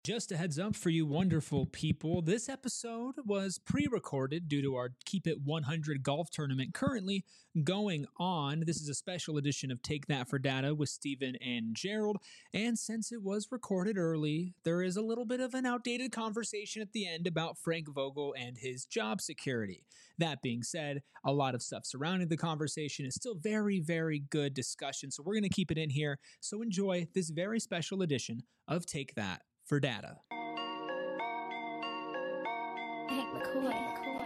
Just a heads up for you wonderful people. This episode was pre-recorded due to our Keep It 100 golf tournament currently going on. This is a special edition of Take That for Data with Steven and Gerald. And since it was recorded early, there is a little bit of an outdated conversation at the end about Frank Vogel and his job security. That being said, a lot of stuff surrounding the conversation is still very, very good discussion. So we're going to keep it in here. So enjoy this very special edition of Take That for Data. Hank McCoy.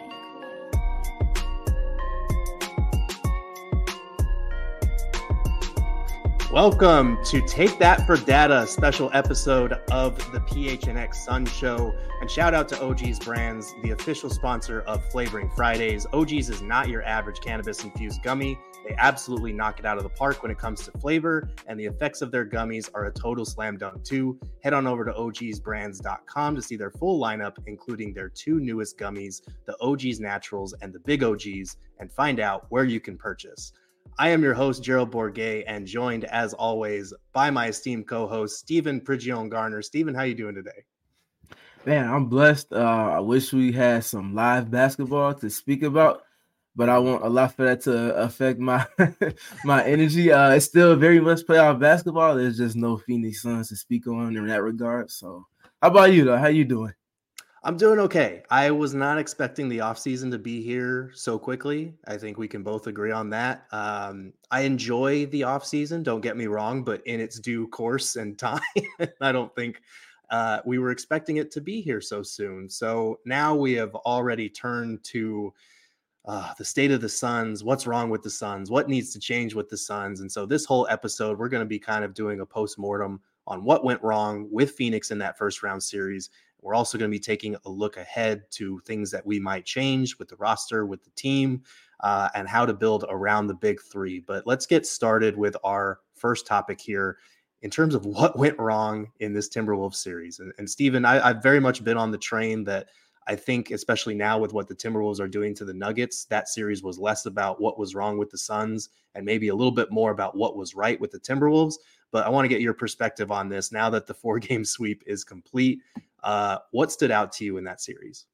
Welcome to Take That for Data, a special episode of the PHNX Sun Show. And shout out to OG's Brands, the official sponsor of Flavoring Fridays. OG's is not your average cannabis-infused gummy. They absolutely knock it out of the park when it comes to flavor, and the effects of their gummies are a total slam dunk too. Head on over to ogsbrands.com to see their full lineup, including their two newest gummies, the OG's Naturals and the Big OG's, and find out where you can purchase. I am your host, Gerald Bourget, and joined, as always, by my esteemed co-host, Steven Prigione-Garner. Steven, how you doing today? Man, I'm blessed. I wish we had some live basketball to speak about, but I want a lot for that to affect my my energy. It's still very much playoff basketball. There's just no Phoenix Suns to speak on in that regard. So how about you, though? How you doing? I'm doing okay. I was not expecting the offseason to be here so quickly. I think we can both agree on that. I enjoy the offseason, don't get me wrong, but in its due course and time, I don't think we were expecting it to be here so soon. So now we have already turned to the state of the Suns, what's wrong with the Suns, what needs to change with the Suns. And so this whole episode, we're going to be kind of doing a post-mortem on what went wrong with Phoenix in that first round series. We're also going to be taking a look ahead to things that we might change with the roster, with the team, and how to build around the big three. But let's get started with our first topic here in terms of what went wrong in this Timberwolves series. And Steven, I've very much been on the train that I think, especially now with what the Timberwolves are doing to the Nuggets, that series was less about what was wrong with the Suns and maybe a little bit more about what was right with the Timberwolves. But I want to get your perspective on this now that the 4-game sweep is complete. What stood out to you in that series?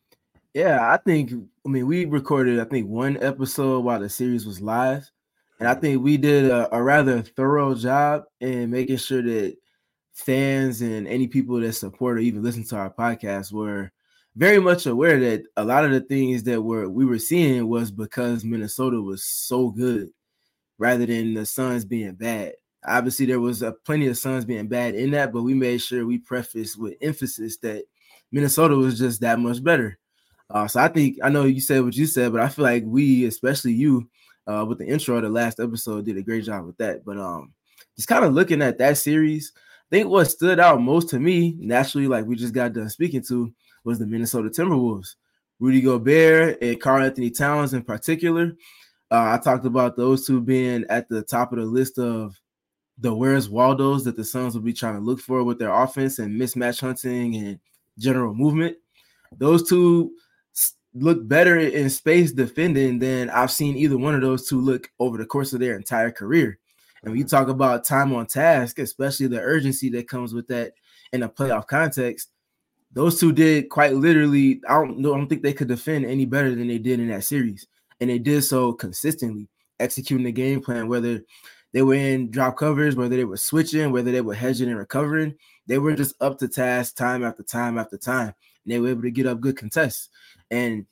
Yeah, we recorded, one episode while the series was live. And I think we did a rather thorough job in making sure that fans and any people that support or even listen to our podcast were very much aware that a lot of the things that we were seeing was because Minnesota was so good rather than the Suns being bad. Obviously, there was plenty of Suns being bad in that, but we made sure we prefaced with emphasis that Minnesota was just that much better. So I know you said what you said, but I feel like we, especially you, with the intro of the last episode, did a great job with that. But just kind of looking at that series, I think what stood out most to me, naturally, like we just got done speaking to, was the Minnesota Timberwolves. Rudy Gobert and Karl-Anthony Towns in particular. I talked about those two being at the top of the list of the Where's Waldos that the Suns will be trying to look for with their offense and mismatch hunting and general movement. Those two look better in space defending than I've seen either one of those two look over the course of their entire career. And when you talk about time on task, especially the urgency that comes with that in a playoff context, those two did quite literally. I don't think they could defend any better than they did in that series. And they did so consistently, executing the game plan, whether they were in drop covers, whether they were switching, whether they were hedging and recovering. They were just up to task time after time after time. And they were able to get up good contests. And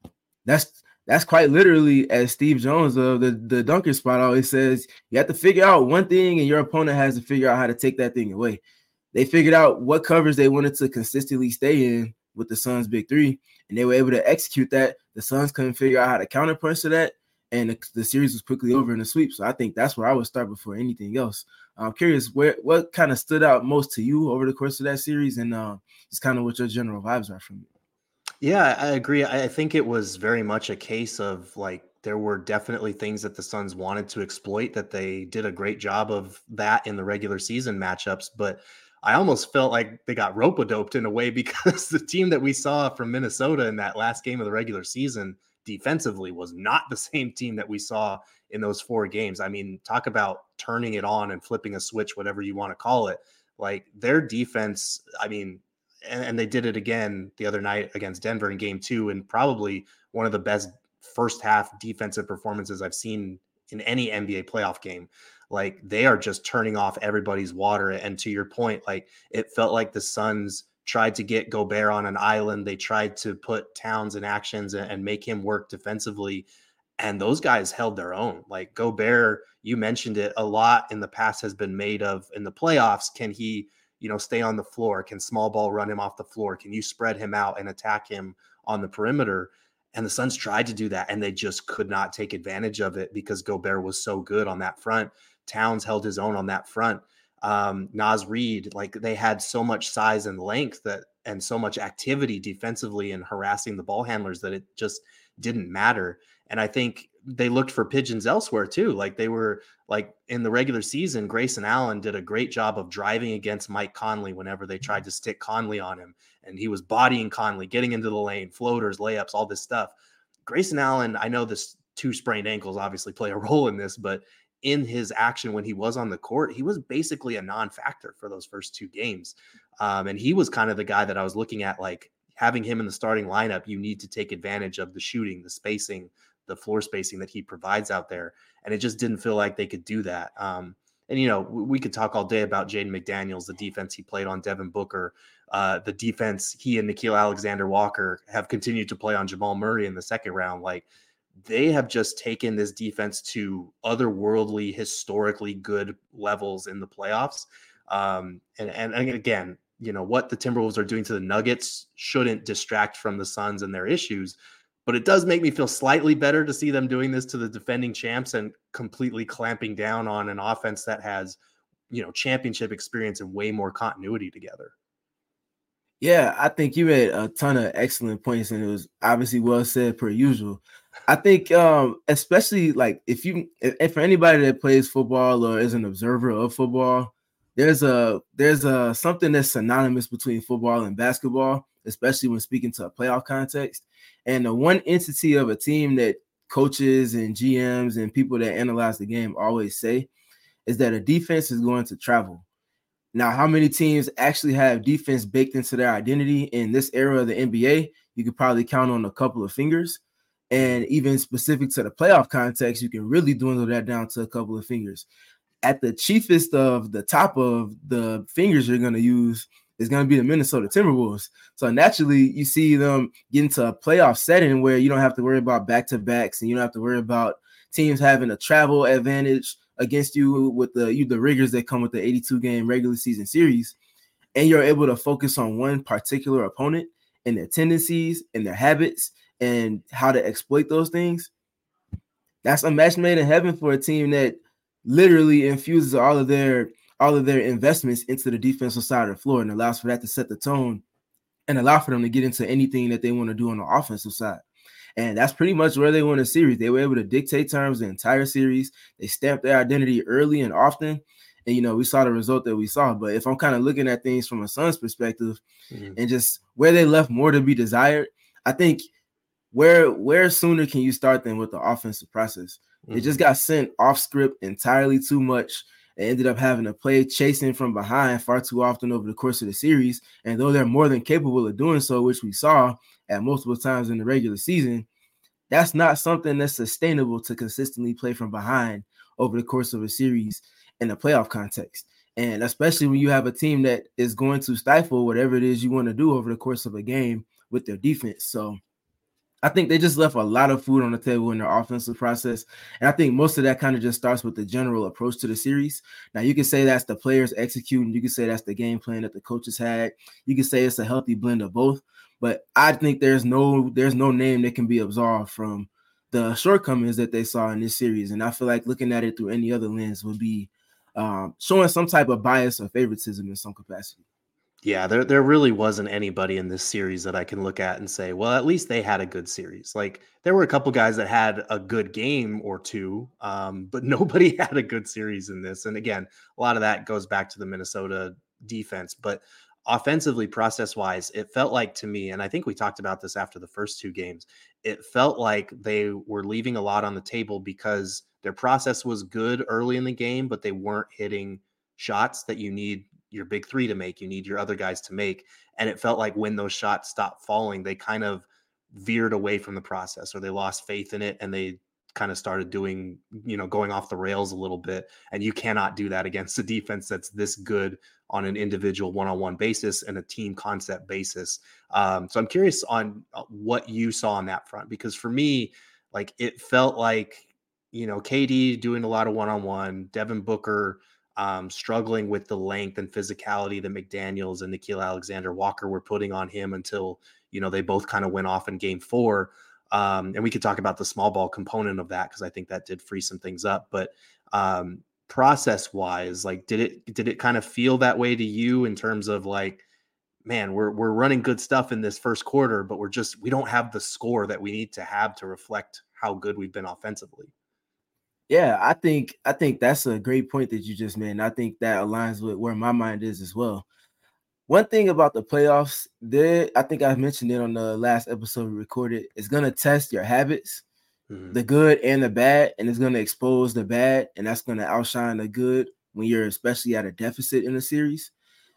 that's quite literally, as Steve Jones of the dunker spot always says, you have to figure out one thing and your opponent has to figure out how to take that thing away. They figured out what covers they wanted to consistently stay in with the Suns' big three, and they were able to execute that. The Suns couldn't figure out how to counterpunch to that, and the series was quickly over in the sweep. So I think that's where I would start before anything else. I'm curious what kind of stood out most to you over the course of that series, and just kind of what your general vibes are from it. Yeah, I agree. I think it was very much a case of like there were definitely things that the Suns wanted to exploit that they did a great job of that in the regular season matchups. But I almost felt like they got rope-a-doped in a way because the team that we saw from Minnesota in that last game of the regular season defensively was not the same team that we saw in those 4 games. I mean, talk about turning it on and flipping a switch, whatever you want to call it. Like their defense, I mean, and they did it again the other night against Denver in game 2, and probably one of the best first half defensive performances I've seen in any NBA playoff game. Like they are just turning off everybody's water. And to your point, like it felt like the Suns tried to get Gobert on an island. They tried to put Towns in actions and make him work defensively. And those guys held their own. Like Gobert, you mentioned it a lot in the past, has been made of in the playoffs. Can he, stay on the floor? Can small ball run him off the floor? Can you spread him out and attack him on the perimeter? And the Suns tried to do that, and they just could not take advantage of it because Gobert was so good on that front. Towns held his own on that front. Naz Reid, like they had so much size and length and so much activity defensively and harassing the ball handlers that it just didn't matter. And I think they looked for pigeons elsewhere too. Like they were like in the regular season, Grayson Allen did a great job of driving against Mike Conley whenever they tried to stick Conley on him. And he was bodying Conley, getting into the lane, floaters, layups, all this stuff. Grayson Allen, I know this 2 sprained ankles obviously play a role in this, but in his action when he was on the court, he was basically a non-factor for those first 2 games. And he was kind of the guy that I was looking at, like having him in the starting lineup, you need to take advantage of the shooting, the spacing, the floor spacing that he provides out there. And it just didn't feel like they could do that. And, we could talk all day about Jaden McDaniels, the defense he played on Devin Booker, the defense he and Nickeil Alexander-Walker have continued to play on Jamal Murray in the second round. Like they have just taken this defense to otherworldly, historically good levels in the playoffs. And again, what the Timberwolves are doing to the Nuggets shouldn't distract from the Suns and their issues. But it does make me feel slightly better to see them doing this to the defending champs and completely clamping down on an offense that has, championship experience and way more continuity together. Yeah, I think you made a ton of excellent points, and it was obviously well said per usual. I think, especially like if for anybody that plays football or is an observer of football, there's a something that's synonymous between football and basketball, especially when speaking to a playoff context. And the one entity of a team that coaches and GMs and people that analyze the game always say is that a defense is going to travel. Now, how many teams actually have defense baked into their identity in this era of the NBA? You could probably count on a couple of fingers. And even specific to the playoff context, you can really dwindle that down to a couple of fingers. At the chiefest of the top of the fingers you're going to use is going to be the Minnesota Timberwolves. So naturally, you see them get into a playoff setting where you don't have to worry about back-to-backs and you don't have to worry about teams having a travel advantage against you with the rigors that come with the 82-game regular season series. And you're able to focus on one particular opponent and their tendencies and their habits and how to exploit those things. That's a match made in heaven for a team that literally infuses all of their investments into the defensive side of the floor and allows for that to set the tone and allow for them to get into anything that they want to do on the offensive side. And that's pretty much where they won the series. They were able to dictate terms the entire series. They stamped their identity early and often. And, we saw the result that we saw. But if I'm kind of looking at things from a Suns perspective and just where they left more to be desired, I think where sooner can you start than with the offensive process? They just got sent off script entirely too much. They ended up having to play chasing from behind far too often over the course of the series. And though they're more than capable of doing so, which we saw at multiple times in the regular season, that's not something that's sustainable to consistently play from behind over the course of a series in a playoff context. And especially when you have a team that is going to stifle whatever it is you want to do over the course of a game with their defense. So I think they just left a lot of food on the table in their offensive process. And I think most of that kind of just starts with the general approach to the series. Now, you can say that's the players executing. You can say that's the game plan that the coaches had. You can say it's a healthy blend of both. But I think there's no name that can be absolved from the shortcomings that they saw in this series. And I feel like looking at it through any other lens would be showing some type of bias or favoritism in some capacity. Yeah, there really wasn't anybody in this series that I can look at and say, well, at least they had a good series. Like there were a couple guys that had a good game or two, but nobody had a good series in this. And again, a lot of that goes back to the Minnesota defense. But offensively, process-wise, it felt like to me, and I think we talked about this after the first 2 games, it felt like they were leaving a lot on the table because their process was good early in the game, but they weren't hitting shots that you need your big three to make, you need your other guys to make. And it felt like when those shots stopped falling, they kind of veered away from the process, or they lost faith in it, and they kind of started doing, going off the rails a little bit. And you cannot do that against a defense that's this good on an individual one-on-one basis and a team concept basis. So I'm curious on what you saw on that front, because for me, like, it felt like, KD doing a lot of one-on-one, Devin Booker struggling with the length and physicality that McDaniels and Nickeil Alexander-Walker were putting on him until, they both kind of went off in game 4. And we could talk about the small ball component of that, because I think that did free some things up. But process wise, like, did it kind of feel that way to you in terms of like, man, we're running good stuff in this first quarter, but we don't have the score that we need to have to reflect how good we've been offensively? Yeah, I think that's a great point that you just made. And I think that aligns with where my mind is as well. One thing about the playoffs, I think I mentioned it on the last episode we recorded, it's going to test your habits, the good and the bad, and it's going to expose the bad, and that's going to outshine the good when you're especially at a deficit in a series.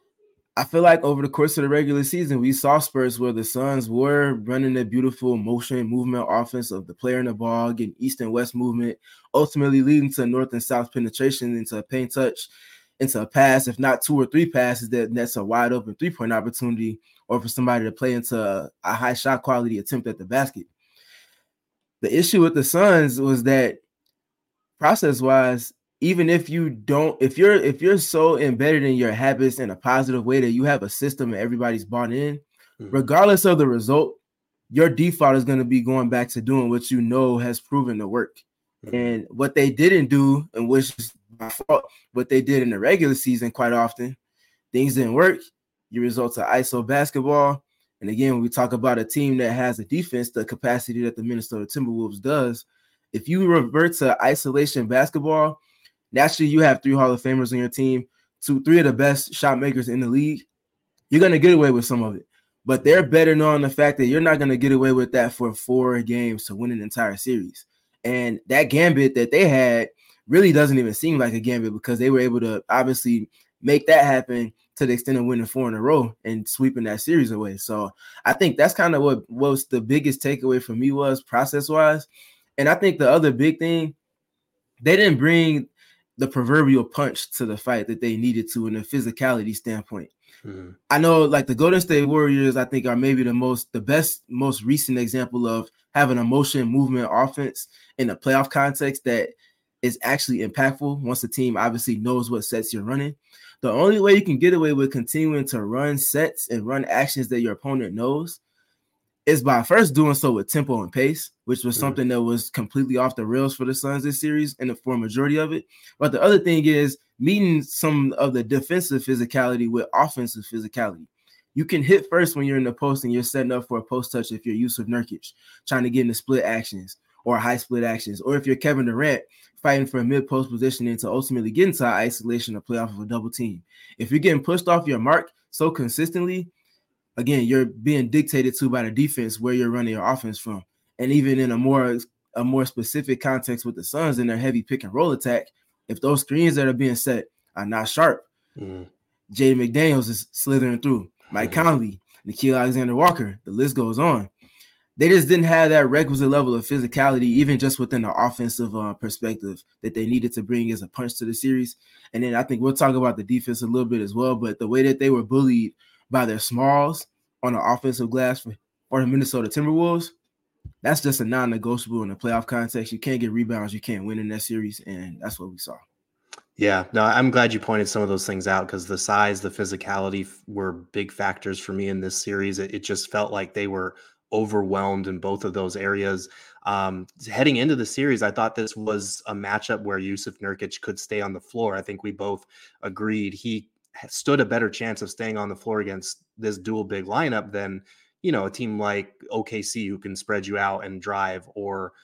I feel like over the course of the regular season, we saw spurts where the Suns were running a beautiful motion movement offense of the player in the ball, getting east and west movement, ultimately leading to north and south penetration into a paint touch, into a pass, if not 2 or 3 passes, that's a wide open 3-point opportunity, or for somebody to play into a high shot quality attempt at the basket. The issue with the Suns was that process-wise, even if you're so embedded in your habits in a positive way that you have a system and everybody's bought in, regardless of the result, your default is going to be going back to doing what has proven to work. And what they didn't do, and which is my fault, what they did in the regular season quite often, things didn't work. You result to ISO basketball. And again, when we talk about a team that has a defense, the capacity that the Minnesota Timberwolves does, if you revert to isolation basketball, naturally you have 3 Hall of Famers on your team, 3 of the best shot makers in the league. You're going to get away with some of it. But they're better knowing the fact that you're not going to get away with that for 4 games to win an entire series. And that gambit that they had really doesn't even seem like a gambit, because they were able to obviously make that happen to the extent of winning 4 in a row and sweeping that series away. So I think that's kind of what was the biggest takeaway for me was process-wise. And I think the other big thing, they didn't bring the proverbial punch to the fight that they needed to in a physicality standpoint. I know, like, the Golden State Warriors, I think, are maybe the best, most recent example of having a motion movement offense in a playoff context that is actually impactful once the team obviously knows what sets you're running. The only way you can get away with continuing to run sets and run actions that your opponent knows is by first doing so with tempo and pace, which was something that was completely off the rails for the Suns this series and for a majority of it. But the other thing is meeting some of the defensive physicality with offensive physicality. You can hit first when you're in the post and you're setting up for a post touch if you're Yusuf Nurkic, trying to get into split actions or high split actions, or if you're Kevin Durant, fighting for a mid-post positioning to ultimately get into isolation or play off of a double team. If you're getting pushed off your mark so consistently, again, you're being dictated to by the defense where you're running your offense from. And even in a more specific context with the Suns in their heavy pick and roll attack, if those screens that are being set are not sharp, Jaden McDaniels is slithering through, Mike Conley, Nickeil Alexander-Walker, the list goes on. They just didn't have that requisite level of physicality, even just within the offensive perspective that they needed to bring as a punch to the series. And then I think we'll talk about the defense a little bit as well, but the way that they were bullied by their smalls on the offensive glass for the Minnesota Timberwolves, that's just a non-negotiable in the playoff context. You can't get rebounds, you can't win in that series, and that's what we saw. Yeah, no, I'm glad you pointed some of those things out, because the size, the physicality were big factors for me in this series. It just felt like they were overwhelmed in both of those areas. Heading into the series, I thought this was a matchup where Yusuf Nurkic could stay on the floor. I think we both agreed he stood a better chance of staying on the floor against this dual big lineup than, a team like OKC who can spread you out and drive, or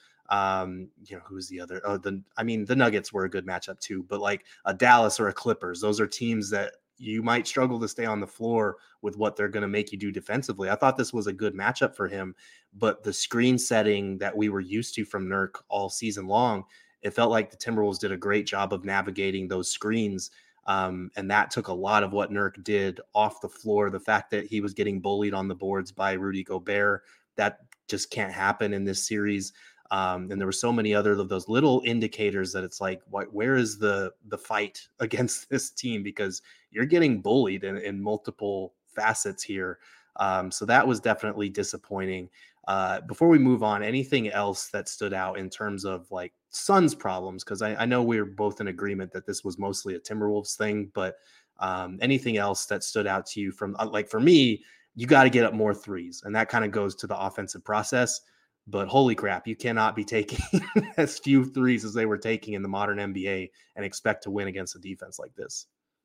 who's the other? The Nuggets were a good matchup too, but like a Dallas or a Clippers, those are teams that you might struggle to stay on the floor with what they're going to make you do defensively. I thought this was a good matchup for him, but the screen setting that we were used to from Nurk all season long, it felt like the Timberwolves did a great job of navigating those screens. And that took a lot of what Nurk did off the floor. The fact that he was getting bullied on the boards by Rudy Gobert, that just can't happen in this series. And there were so many other of those little indicators that it's like, where is the fight against this team? Because you're getting bullied in multiple facets here. So that was definitely disappointing. Before we move on, anything else that stood out in terms of like Suns problems? Because I know we were both in agreement that this was mostly a Timberwolves thing, but anything else that stood out to you from like for me, you got to get up more threes, and that kind of goes to the offensive process. But holy crap, you cannot be taking as few threes as they were taking in the modern NBA and expect to win against a defense like this.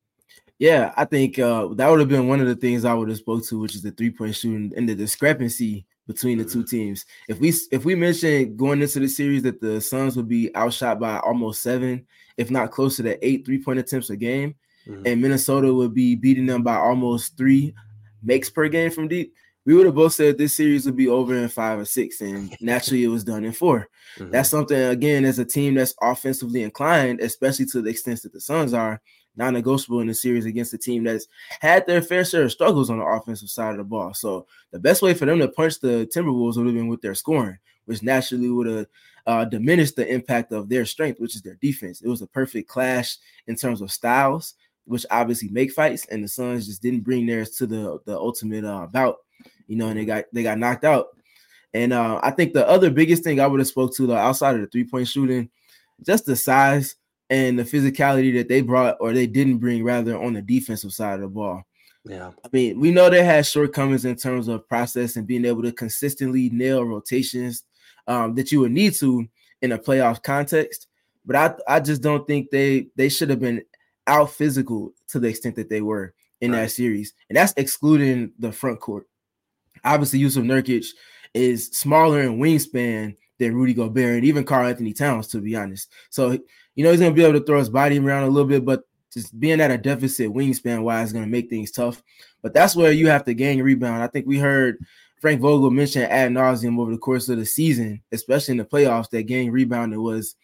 Yeah, I think that would have been one of the things I would have spoke to, which is the 3-point shooting and the discrepancy between the two teams. If we mentioned going into the series that the Suns would be outshot by almost 7, if not closer to 8 3-point attempts a game, and Minnesota would be beating them by almost 3 makes per game from deep, we would have both said this series would be over in 5 or 6, and naturally it was done in 4. That's something, again, as a team that's offensively inclined, especially to the extent that the Suns are, non-negotiable in the series against a team that's had their fair share of struggles on the offensive side of the ball. So the best way for them to punch the Timberwolves would have been with their scoring, which naturally would have diminished the impact of their strength, which is their defense. It was a perfect clash in terms of styles, which obviously make fights, and the Suns just didn't bring theirs to the ultimate bout, and they got knocked out. And I think the other biggest thing I would have spoke to, outside of the 3-point shooting, just the size and the physicality that they brought, or they didn't bring rather, on the defensive side of the ball. Yeah. I mean, we know they had shortcomings in terms of process and being able to consistently nail rotations that you would need to in a playoff context. But I just don't think they should have been out physical to the extent that they were in that series. And that's excluding the front court. Obviously, Yusuf Nurkic is smaller in wingspan than Rudy Gobert and even Karl-Anthony Towns, to be honest. So, he's going to be able to throw his body around a little bit, but just being at a deficit wingspan-wise is going to make things tough. But that's where you have to gain rebound. I think we heard Frank Vogel mention ad nauseum over the course of the season, especially in the playoffs, that getting rebounding was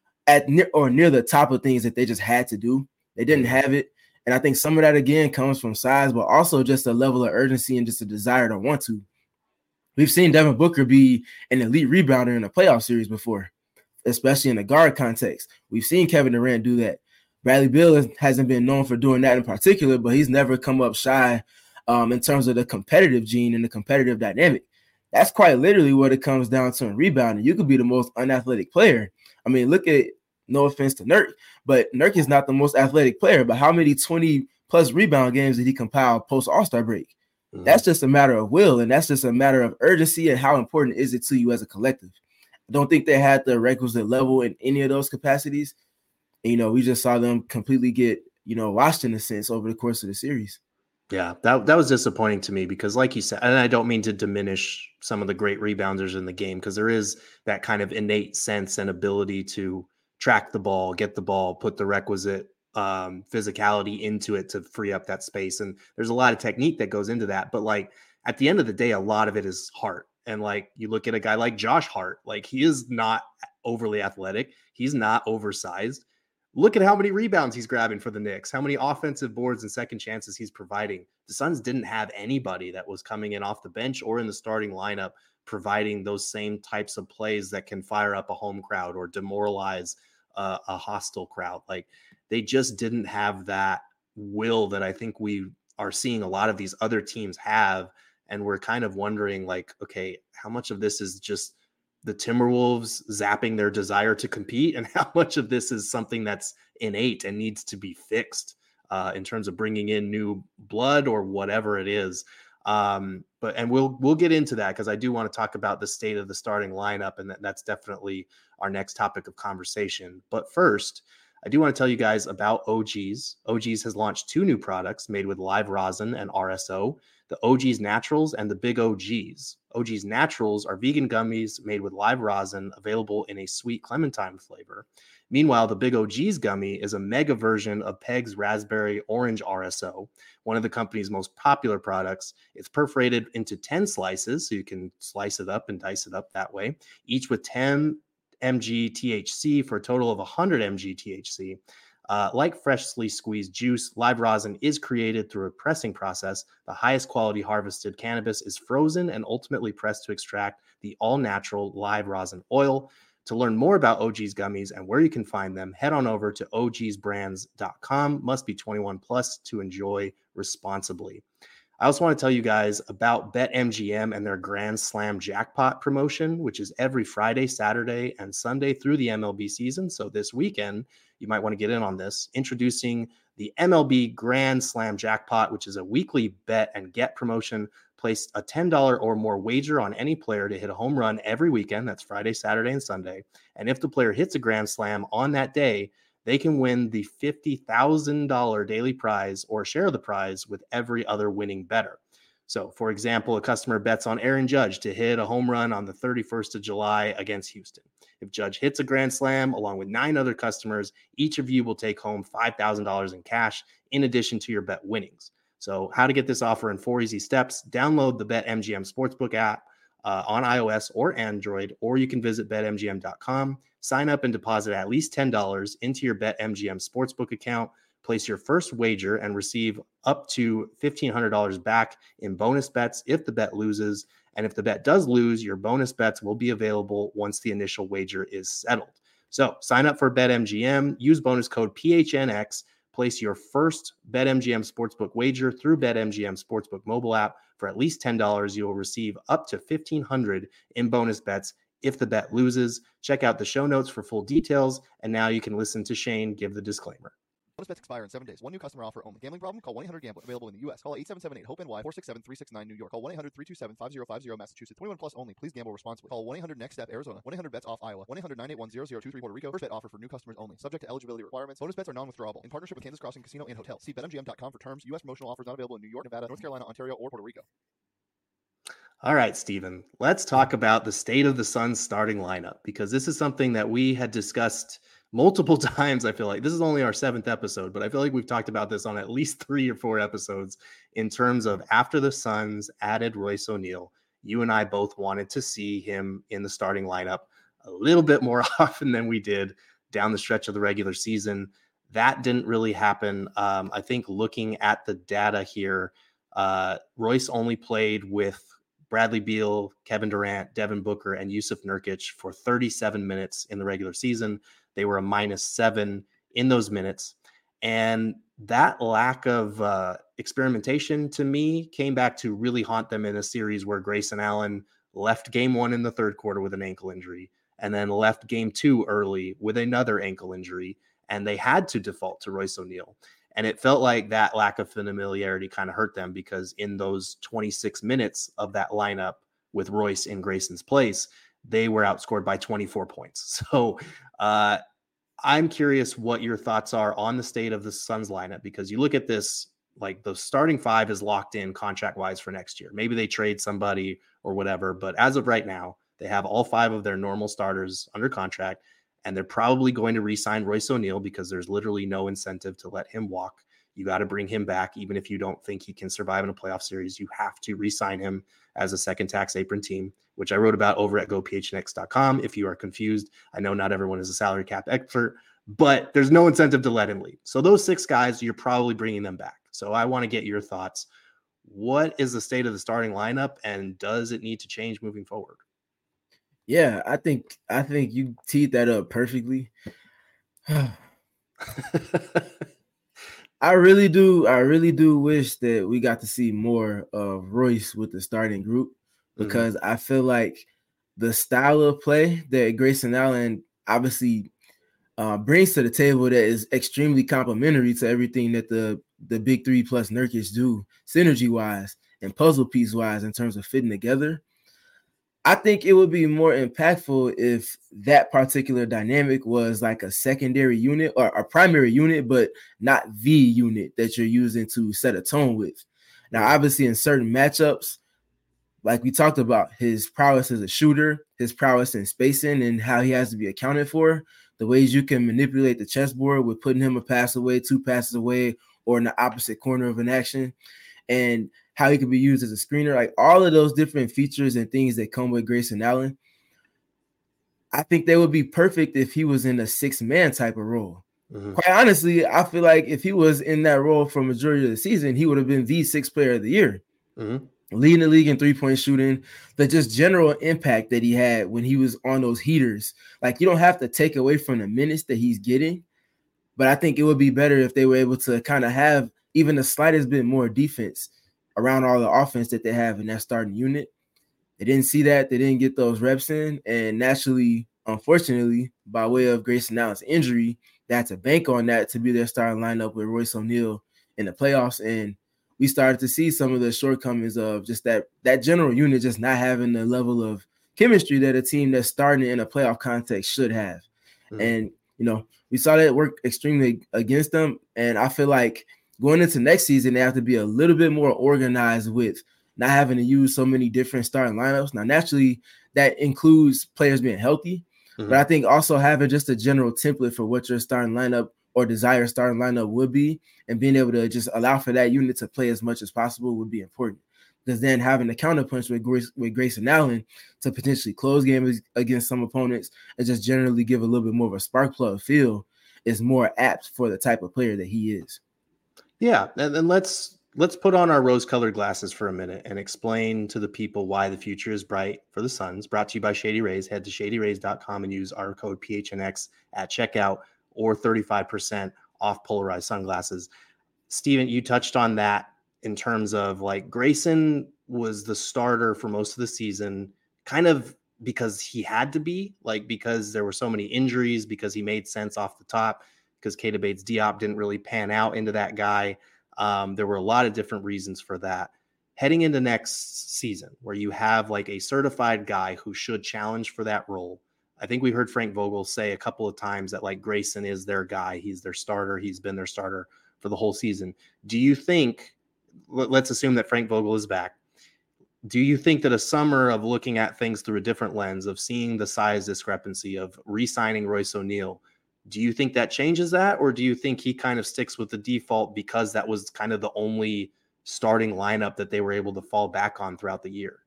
at near the top of things that they just had to do. They didn't have it. And I think some of that, again, comes from size, but also just a level of urgency and just a desire to want to. We've seen Devin Booker be an elite rebounder in a playoff series before, especially in the guard context. We've seen Kevin Durant do that. Bradley Beal hasn't been known for doing that in particular, but he's never come up shy in terms of the competitive gene and the competitive dynamic. That's quite literally what it comes down to in rebounding. You could be the most unathletic player. I mean, look at, no offense to Nurk, but Nurk is not the most athletic player, but how many 20-plus rebound games did he compile post-All-Star break? That's just a matter of will, and that's just a matter of urgency and how important is it to you as a collective. I don't think they had the requisite level in any of those capacities. And, we just saw them completely get, washed in a sense over the course of the series. Yeah, that was disappointing to me because, like you said, and I don't mean to diminish some of the great rebounders in the game, because there is that kind of innate sense and ability to track the ball, get the ball, put the requisite physicality into it to free up that space. And there's a lot of technique that goes into that. But like at the end of the day, a lot of it is heart. And like you look at a guy like Josh Hart, like he is not overly athletic. He's not oversized. Look at how many rebounds he's grabbing for the Knicks, how many offensive boards and second chances he's providing. The Suns didn't have anybody that was coming in off the bench or in the starting lineup providing those same types of plays that can fire up a home crowd or demoralize a hostile crowd. Like they just didn't have that will that I think we are seeing a lot of these other teams have. And we're kind of wondering like, okay, how much of this is just the Timberwolves zapping their desire to compete, and how much of this is something that's innate and needs to be fixed in terms of bringing in new blood or whatever it is. And we'll get into that because I do want to talk about the state of the starting lineup, and that's definitely our next topic of conversation. But first, I do want to tell you guys about OGs. OGs has launched 2 new products made with live rosin and RSO, the OGs Naturals and the Big OGs. OGs Naturals are vegan gummies made with live rosin, available in a sweet clementine flavor. Meanwhile, the Big OGs gummy is a mega version of Peg's Raspberry Orange RSO, one of the company's most popular products. It's perforated into 10 slices, so you can slice it up and dice it up that way, each with 10 mg THC for a total of 100 mg THC. Like freshly squeezed juice, live rosin is created through a pressing process. The highest quality harvested cannabis is frozen and ultimately pressed to extract the all-natural live rosin oil. To learn more about OG's gummies and where you can find them, head on over to ogsbrands.com. Must be 21 plus to enjoy responsibly. I also want to tell you guys about BetMGM and their Grand Slam Jackpot promotion, which is every Friday, Saturday, and Sunday through the MLB season. So this weekend, you might want to get in on this. Introducing the MLB Grand Slam Jackpot, which is a weekly bet and get promotion. Place a $10 or more wager on any player to hit a home run every weekend. That's Friday, Saturday, and Sunday. And if the player hits a grand slam on that day, they can win the $50,000 daily prize or share the prize with every other winning bettor. So, for example, a customer bets on Aaron Judge to hit a home run on the 31st of July against Houston. If Judge hits a grand slam along with 9 other customers, each of you will take home $5,000 in cash in addition to your bet winnings. So how to get this offer in 4 easy steps: download the BetMGM Sportsbook app on iOS or Android, or you can visit betmgm.com, sign up and deposit at least $10 into your BetMGM Sportsbook account, place your first wager and receive up to $1,500 back in bonus bets if the bet loses. And if the bet does lose, your bonus bets will be available once the initial wager is settled. So sign up for BetMGM, use bonus code PHNX, place your first BetMGM Sportsbook wager through BetMGM Sportsbook mobile app for at least $10. You will receive up to $1,500 in bonus bets if the bet loses. Check out the show notes for full details. And now you can listen to Shane give the disclaimer. Bonus bets expire in 7 days. One new customer offer only. Gambling problem? Call 1-800-GAMBLER. Available in the U.S. Call 877-8-HOPE-NY, 467-369 New York. Call 1-800-327-5050 Massachusetts. 21 plus only. Please gamble responsibly. Call 1-800-NEXT-STEP Arizona. 1-800-BETS-OFF Iowa. 1-800-981-0023 Puerto Rico. First bet offer for new customers only. Subject to eligibility requirements. Bonus bets are non-withdrawable. In partnership with Kansas Crossing Casino and Hotel. See BetMGM.com for terms. U.S. promotional offers not available in New York, Nevada, North Carolina, Ontario, or Puerto Rico. All right, Steven, let's talk about the state of the Suns starting lineup, because this is something that we had discussed multiple times. I feel like this is only our 7th episode, but I feel like we've talked about this on at least 3 or 4 episodes in terms of after the Suns added Royce O'Neal, you and I both wanted to see him in the starting lineup a little bit more often than we did down the stretch of the regular season. That didn't really happen. I think looking at the data here, Royce only played with Bradley Beal, Kevin Durant, Devin Booker, and Yusuf Nurkic for 37 minutes in the regular season. They were a -7 in those minutes. And that lack of experimentation to me came back to really haunt them in a series where Grayson Allen left game 1 in the 3rd quarter with an ankle injury and then left game 2 early with another ankle injury. And they had to default to Royce O'Neal. And it felt like that lack of familiarity kind of hurt them, because in those 26 minutes of that lineup with Royce in Grayson's place, they were outscored by 24 points. So I'm curious what your thoughts are on the state of the Suns lineup, because you look at this, like the starting 5 is locked in contract-wise for next year. Maybe they trade somebody or whatever, but as of right now, they have all 5 of their normal starters under contract. And they're probably going to re-sign Royce O'Neal because there's literally no incentive to let him walk. You got to bring him back. Even if you don't think he can survive in a playoff series, you have to re-sign him as a second tax apron team, which I wrote about over at gophnx.com. If you are confused, I know not everyone is a salary cap expert, but there's no incentive to let him leave. So those 6 guys, you're probably bringing them back. So I want to get your thoughts. What is the state of the starting lineup, and does it need to change moving forward? Yeah, I think you teed that up perfectly. I really do wish that we got to see more of Royce with the starting group, because I feel like the style of play that Grayson Allen obviously brings to the table that is extremely complementary to everything that the big 3 plus Nurkic do synergy wise and puzzle piece wise in terms of fitting together. I think it would be more impactful if that particular dynamic was like a secondary unit or a primary unit, but not the unit that you're using to set a tone with. Now, obviously, in certain matchups, like we talked about, his prowess as a shooter, his prowess in spacing, and how he has to be accounted for, the ways you can manipulate the chessboard with putting him a pass away, 2 passes away, or in the opposite corner of an action, and how he could be used as a screener, like all of those different features and things that come with Grayson Allen. I think they would be perfect if he was in a 6-man type of role. Quite honestly, I feel like if he was in that role for majority of the season, he would have been the sixth player of the year. Leading the league in 3-point shooting, the just general impact that he had when he was on those heaters. Like, you don't have to take away from the minutes that he's getting, but I think it would be better if they were able to kind of have even the slightest bit more defense around all the offense that they have in that starting unit. They didn't see that. They didn't get those reps in. And naturally, unfortunately, by way of Grayson Allen's injury, they had to bank on that to be their starting lineup with Royce O'Neal in the playoffs. And we started to see some of the shortcomings of just that general unit just not having the level of chemistry that a team that's starting in a playoff context should have. And, we saw that work extremely against them. And I feel like going into next season, they have to be a little bit more organized with not having to use so many different starting lineups. Now, naturally, that includes players being healthy, but I think also having just a general template for what your starting lineup or desired starting lineup would be, and being able to just allow for that unit to play as much as possible would be important. Because then having the counterpunch with Grayson Allen to potentially close games against some opponents and just generally give a little bit more of a spark plug feel is more apt for the type of player that he is. Yeah, and then let's put on our rose-colored glasses for a minute and explain to the people why the future is bright for the Suns. Brought to you by Shady Rays. Head to shadyrays.com and use our code PHNX at checkout, or 35% off polarized sunglasses. Steven, you touched on that in terms of like Grayson was the starter for most of the season, kind of because he had to be, like, because there were so many injuries, because he made sense off the top, because Keita Bates-Diop didn't really pan out into that guy. There were a lot of different reasons for that. Heading into next season, where you have like a certified guy who should challenge for that role. I think we heard Frank Vogel say a couple of times that like Grayson is their guy. He's their starter. He's been their starter for the whole season. Do you think, let's assume that Frank Vogel is back. Do you think that a summer of looking at things through a different lens, of seeing the size discrepancy, of re-signing Royce O'Neal, do you think that changes that? Or do you think he kind of sticks with the default because that was kind of the only starting lineup that they were able to fall back on throughout the year?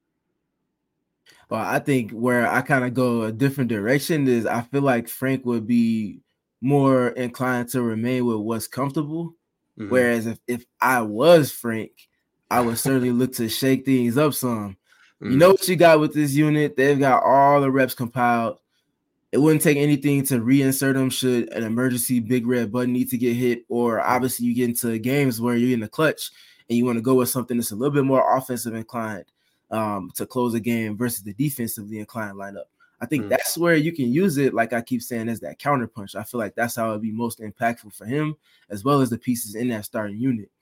Well, I think where I kind of go a different direction is I feel like Frank would be more inclined to remain with what's comfortable. Whereas if I was Frank, I would certainly look to shake things up some. You know what you got with this unit? They've got all the reps compiled. It wouldn't take anything to reinsert them should an emergency big red button need to get hit, or obviously you get into games where you're in the clutch and you want to go with something that's a little bit more offensive inclined to close a game versus the defensively inclined lineup. I think that's where you can use it, like I keep saying, as that counterpunch. I feel like that's how it'd be most impactful for him, as well as the pieces in that starting unit.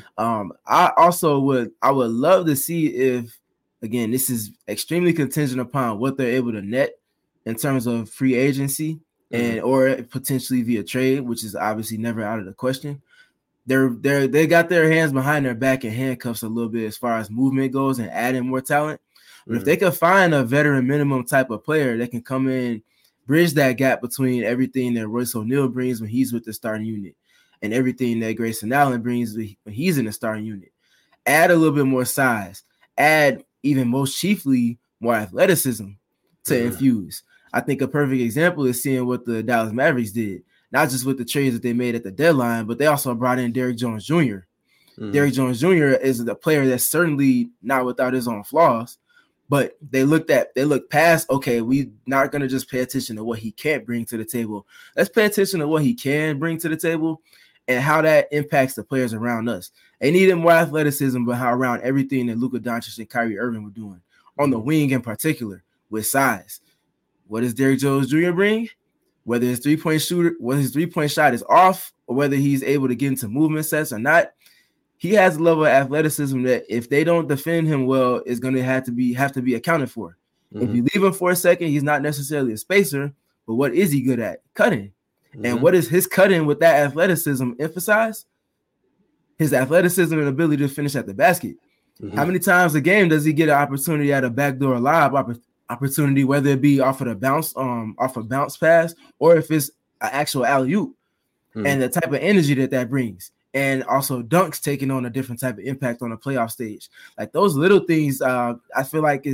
I would love to see if, again, this is extremely contingent upon what they're able to net in terms of free agency and or potentially via trade, which is obviously never out of the question. They got their hands behind their back and handcuffs a little bit as far as movement goes and adding more talent. But if they could find a veteran minimum type of player that can come in, bridge that gap between everything that Royce O'Neal brings when he's with the starting unit and everything that Grayson Allen brings when he's in the starting unit, add a little bit more size, add even most chiefly more athleticism to infuse. I think a perfect example is seeing what the Dallas Mavericks did, not just with the trades that they made at the deadline, but they also brought in Derrick Jones Jr. Derrick Jones Jr. is a player that's certainly not without his own flaws, but they looked past, okay, we not going to just pay attention to what he can't bring to the table. Let's pay attention to what he can bring to the table and how that impacts the players around us. They needed more athleticism, but how around everything that Luka Doncic and Kyrie Irving were doing, on the wing in particular, with size. What does Derrick Jones Jr. bring? Whether his three-point shot is off or whether he's able to get into movement sets or not, he has a level of athleticism that if they don't defend him well, is going to have to be accounted for. If you leave him for a second, he's not necessarily a spacer, but what is he good at? Cutting. And what is his cutting with that athleticism emphasize? His athleticism and ability to finish at the basket. How many times a game does he get an opportunity at a backdoor lob opportunity, whether it be off a bounce pass or if it's an actual alley-oop, and the type of energy that brings, and also dunks taking on a different type of impact on the playoff stage. Like those little things, I feel like is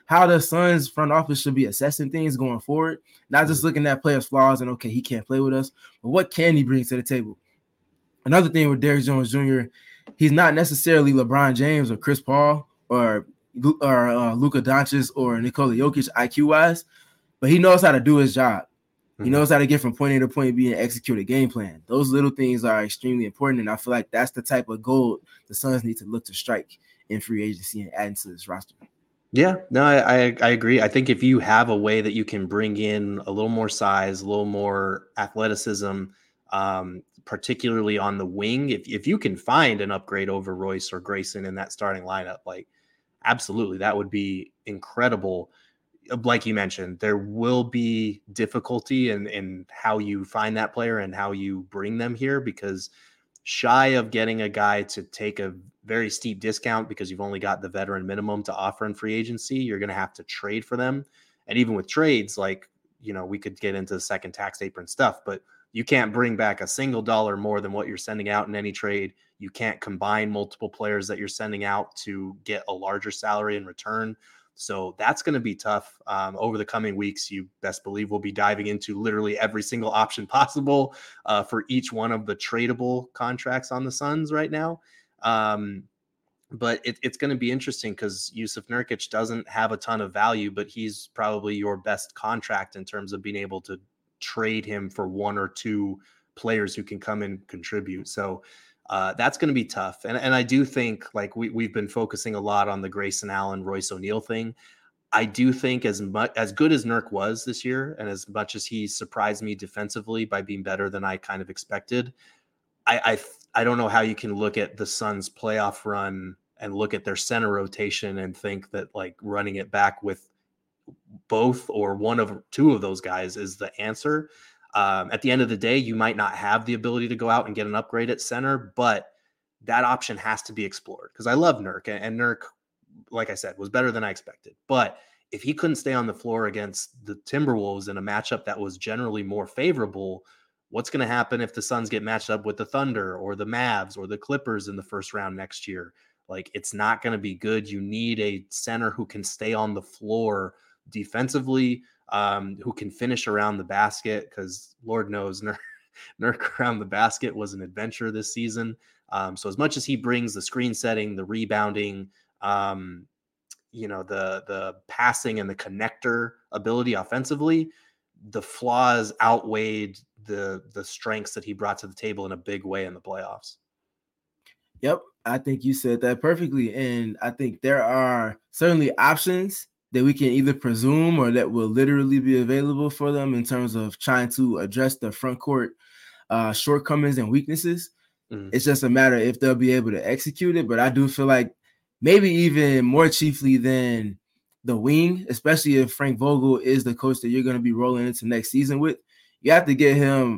how the Suns front office should be assessing things going forward, not just looking at players' flaws and, okay, he can't play with us, but what can he bring to the table? Another thing with Derrick Jones Jr., he's not necessarily LeBron James or Chris Paul or Luka Doncic or Nikola Jokic IQ-wise, but he knows how to do his job. He knows how to get from point A to point B and execute a game plan. Those little things are extremely important, and I feel like that's the type of gold the Suns need to look to strike in free agency and add into this roster. Yeah, no, I agree. I think if you have a way that you can bring in a little more size, a little more athleticism, particularly on the wing, if you can find an upgrade over Royce or Grayson in that starting lineup, like absolutely, that would be incredible. Like you mentioned, there will be difficulty in how you find that player and how you bring them here, because shy of getting a guy to take a very steep discount because you've only got the veteran minimum to offer in free agency, you're going to have to trade for them. And even with trades, like, we could get into the second tax apron stuff, but you can't bring back a single dollar more than what you're sending out in any trade. You can't combine multiple players that you're sending out to get a larger salary in return. So that's going to be tough. Over the coming weeks, you best believe we'll be diving into literally every single option possible for each one of the tradable contracts on the Suns right now. But it's going to be interesting because Jusuf Nurkic doesn't have a ton of value, but he's probably your best contract in terms of being able to trade him for one or two players who can come and contribute. So that's going to be tough. And I do think, like, we've been focusing a lot on the Grayson Allen, Royce O'Neal thing. I do think as good as Nurk was this year, and as much as he surprised me defensively by being better than I kind of expected, I don't know how you can look at the Suns' playoff run and look at their center rotation and think that, like, running it back with both or one of two of those guys is the answer. At the end of the day, you might not have the ability to go out and get an upgrade at center, but that option has to be explored, because I love Nurk, and Nurk, like I said, was better than I expected. But if he couldn't stay on the floor against the Timberwolves in a matchup that was generally more favorable, what's going to happen if the Suns get matched up with the Thunder or the Mavs or the Clippers in the first round next year? Like, it's not going to be good. You need a center who can stay on the floor defensively, who can finish around the basket, because Lord knows Nurk around the basket was an adventure this season. So as much as he brings the screen setting, the rebounding, the passing and the connector ability offensively, the flaws outweighed the strengths that he brought to the table in a big way in the playoffs. Yep, I think you said that perfectly. And I think there are certainly options that we can either presume or that will literally be available for them in terms of trying to address the front court shortcomings and weaknesses. It's just a matter if they'll be able to execute it. But I do feel like maybe even more chiefly than the wing, especially if Frank Vogel is the coach that you're going to be rolling into next season with, you have to get him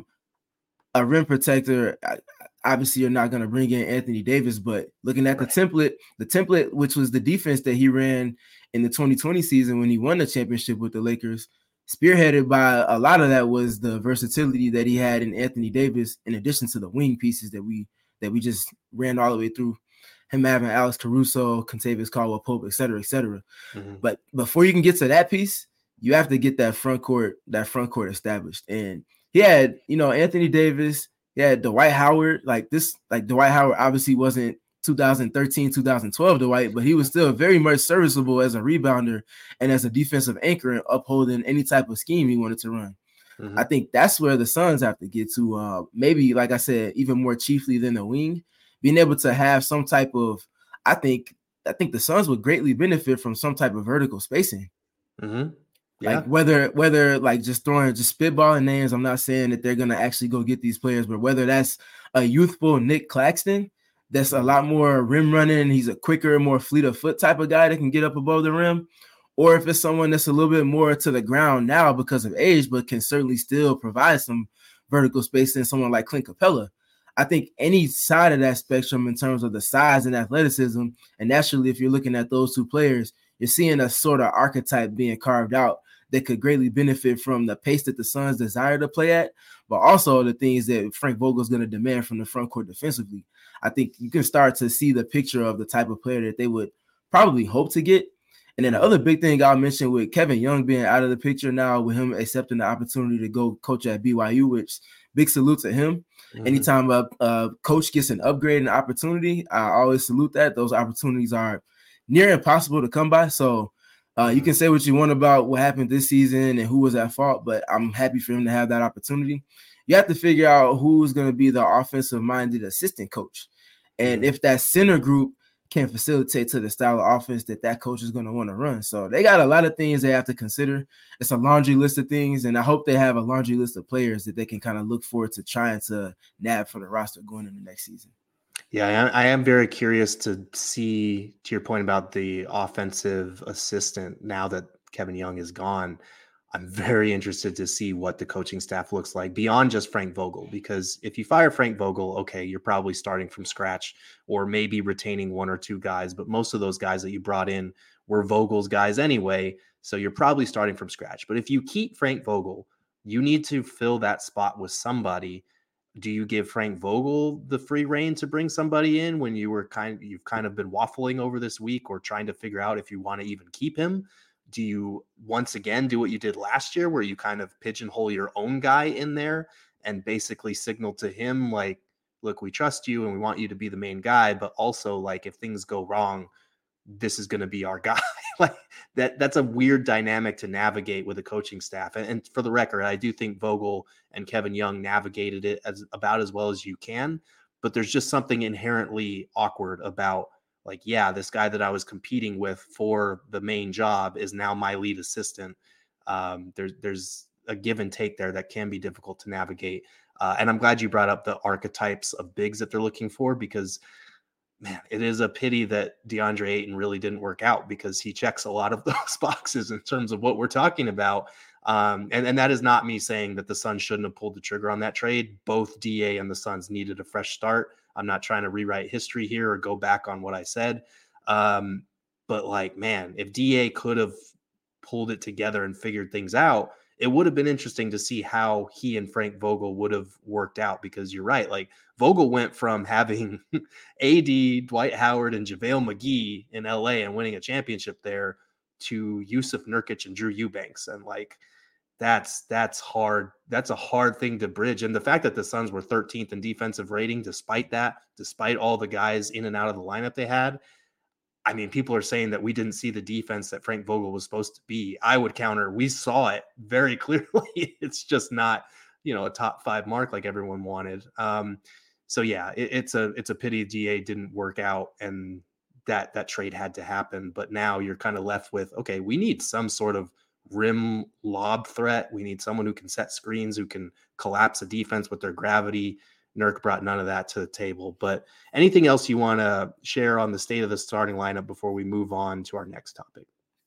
a rim protector. Obviously, you're not going to bring in Anthony Davis, but looking at the template, which was the defense that he ran in the 2020 season when he won the championship with the Lakers, spearheaded by a lot of that was the versatility that he had in Anthony Davis, in addition to the wing pieces that we just ran all the way through, him having Alex Caruso, Kentavious Caldwell-Pope, et cetera, et cetera. But before you can get to that piece, you have to get that front court established. And he had, Anthony Davis, he had Dwight Howard. Like Dwight Howard obviously wasn't 2013, 2012 Dwight, but he was still very much serviceable as a rebounder and as a defensive anchor and upholding any type of scheme he wanted to run. I think that's where the Suns have to get to. Maybe, like I said, even more chiefly than the wing, being able to have some type of, I think the Suns would greatly benefit from some type of vertical spacing. Yeah. Like whether like just spitballing names. I'm not saying that they're going to actually go get these players, but whether that's a youthful Nick Claxton, that's a lot more rim running. He's a quicker, more fleet of foot type of guy that can get up above the rim. Or if it's someone that's a little bit more to the ground now because of age, but can certainly still provide some vertical spacing, someone like Clint Capella. I think any side of that spectrum in terms of the size and athleticism, and naturally, if you're looking at those two players, you're seeing a sort of archetype being carved out that could greatly benefit from the pace that the Suns desire to play at, but also the things that Frank Vogel is going to demand from the front court defensively. I think you can start to see the picture of the type of player that they would probably hope to get. And then the other big thing I'll mention with Kevin Young being out of the picture now, with him accepting the opportunity to go coach at BYU, which big salute to him. Mm-hmm. Anytime a coach gets an upgrade and opportunity, I always salute that. Those opportunities are near impossible to come by. So you can say what you want about what happened this season and who was at fault, but I'm happy for him to have that opportunity. You have to figure out who's going to be the offensive-minded assistant coach. And if that center group can facilitate to the style of offense that coach is going to want to run. So they got a lot of things they have to consider. It's a laundry list of things, and I hope they have a laundry list of players that they can kind of look forward to trying to nab for the roster going into next season. Yeah, I am very curious to see, to your point about the offensive assistant, now that Kevin Young is gone, I'm very interested to see what the coaching staff looks like beyond just Frank Vogel, because if you fire Frank Vogel, okay, you're probably starting from scratch or maybe retaining one or two guys, but most of those guys that you brought in were Vogel's guys anyway, so you're probably starting from scratch. But if you keep Frank Vogel, you need to fill that spot with somebody. Do you give Frank Vogel the free rein to bring somebody in when you've kind of been waffling over this week or trying to figure out if you want to even keep him? Do you once again do what you did last year where you kind of pigeonhole your own guy in there and basically signal to him like, look, we trust you and we want you to be the main guy, but also like if things go wrong, this is going to be our guy. Like that's a weird dynamic to navigate with a coaching staff. And for the record, I do think Vogel and Kevin Young navigated it about as well as you can, but there's just something inherently awkward about like, yeah, this guy that I was competing with for the main job is now my lead assistant. There's a give and take there that can be difficult to navigate. And I'm glad you brought up the archetypes of bigs that they're looking for, because man, it is a pity that DeAndre Ayton really didn't work out, because he checks a lot of those boxes in terms of what we're talking about. And that is not me saying that the Suns shouldn't have pulled the trigger on that trade. Both DA and the Suns needed a fresh start. I'm not trying to rewrite history here or go back on what I said. But like, man, if DA could have pulled it together and figured things out, it would have been interesting to see how he and Frank Vogel would have worked out, because you're right. Like Vogel went from having AD, Dwight Howard, and JaVale McGee in LA and winning a championship there to Yusuf Nurkic and Drew Eubanks. And like, that's hard. That's a hard thing to bridge. And the fact that the Suns were 13th in defensive rating, despite all the guys in and out of the lineup they had, I mean, people are saying that we didn't see the defense that Frank Vogel was supposed to be. I would counter, we saw it very clearly. It's just not, a top 5 mark like everyone wanted. So yeah, it's a pity DA didn't work out and that trade had to happen. But now you're kind of left with, okay, we need some sort of rim lob threat. We need someone who can set screens, who can collapse a defense with their gravity. Nurk brought none of that to the table. But anything else you want to share on the state of the starting lineup before we move on to our next topic?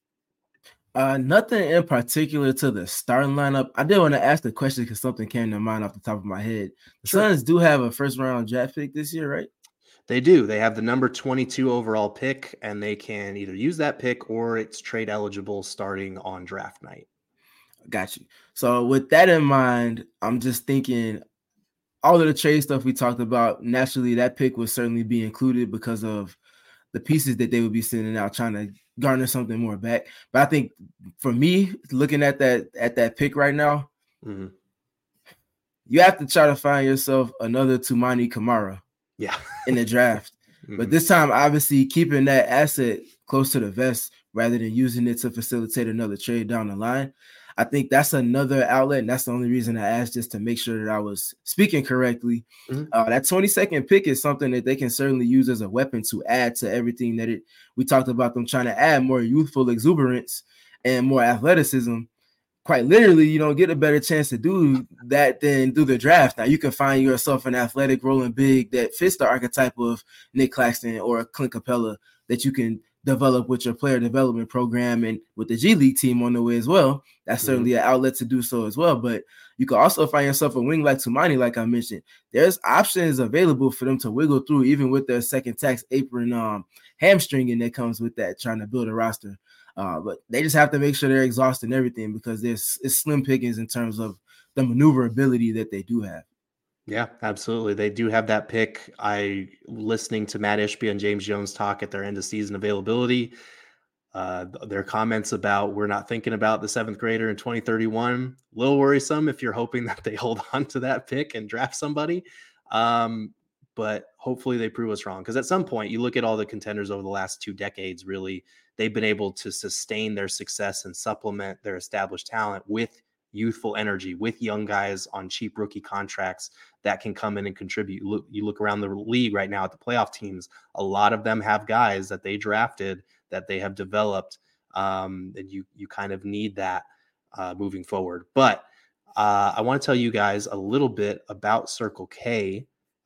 Nothing in particular to the starting lineup. I did want to ask the question because something came to mind off the top of my head. The Suns do have a first-round draft pick this year, right? They do. They have the number 22 overall pick, and they can either use that pick or it's trade eligible starting on draft night. Got you. So with that in mind, I'm just thinking all of the trade stuff we talked about, naturally that pick would certainly be included because of the pieces that they would be sending out, trying to garner something more back. But I think for me, looking at that pick right now, you have to try to find yourself another Toumani Camara in the draft. But this time, obviously, keeping that asset close to the vest rather than using it to facilitate another trade down the line. I think that's another outlet, and that's the only reason I asked, just to make sure that I was speaking correctly. That 22nd pick is something that they can certainly use as a weapon to add to everything that we talked about, them trying to add more youthful exuberance and more athleticism. Quite literally, you don't get a better chance to do that than do the draft. Now, you can find yourself an athletic rolling big that fits the archetype of Nick Claxton or Clint Capella that you can develop with your player development program and with the G League team on the way as well. That's certainly an outlet to do so as well. But you can also find yourself a wing like Toumani, like I mentioned. There's options available for them to wiggle through, even with their second tax apron hamstringing that comes with that, trying to build a roster. But they just have to make sure they're exhausting everything, because it's slim pickings in terms of the maneuverability that they do have. Yeah, absolutely. They do have that pick. Listening to Matt Ishbia and James Jones talk at their end of season availability, Their comments about we're not thinking about the 7th grader in 2031, a little worrisome if you're hoping that they hold on to that pick and draft somebody. But hopefully they prove us wrong. Because at some point, you look at all the contenders over the last 2 decades, really, they've been able to sustain their success and supplement their established talent with youthful energy, with young guys on cheap rookie contracts that can come in and contribute. You look around the league right now at the playoff teams, a lot of them have guys that they drafted that they have developed. And you kind of need that moving forward. But I want to tell you guys a little bit about Circle K.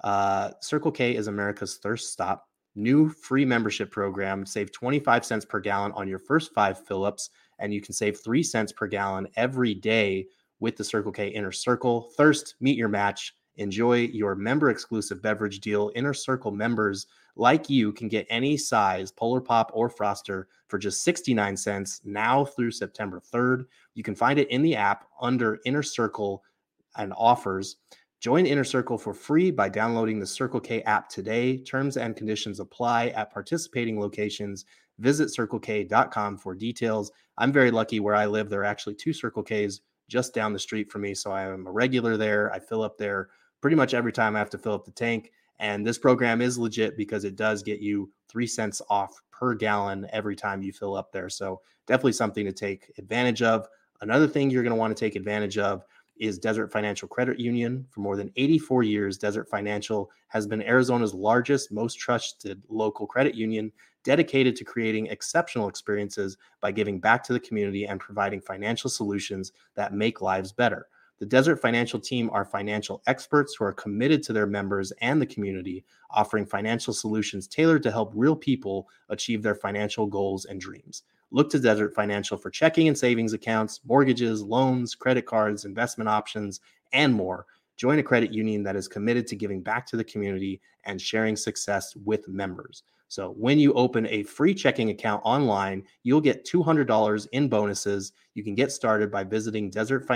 Circle K is America's thirst stop. New free membership program. Save 25 cents per gallon on your first 5 fill-ups, and you can save 3 cents per gallon every day with the Circle K Inner Circle. Thirst, meet your match. Enjoy your member-exclusive beverage deal. Inner Circle members like you can get any size Polar Pop or Froster for just 69 cents now through September 3rd. You can find it in the app under Inner Circle and offers. Join Inner Circle for free by downloading the Circle K app today. Terms and conditions apply at participating locations. Visit CircleK.com for details. I'm very lucky where I live. There are actually 2 Circle Ks just down the street from me, so I am a regular there. I fill up there pretty much every time I have to fill up the tank. And this program is legit because it does get you 3 cents off per gallon every time you fill up there. So definitely something to take advantage of. Another thing you're going to want to take advantage of is Desert Financial Credit Union. For more than 84 years, Desert Financial has been Arizona's largest, most trusted local credit union, dedicated to creating exceptional experiences by giving back to the community and providing financial solutions that make lives better. The Desert Financial team are financial experts who are committed to their members and the community, offering financial solutions tailored to help real people achieve their financial goals and dreams. Look to Desert Financial for checking and savings accounts, mortgages, loans, credit cards, investment options, and more. Join a credit union that is committed to giving back to the community and sharing success with members. So when you open a free checking account online, you'll get $200 in bonuses. You can get started by visiting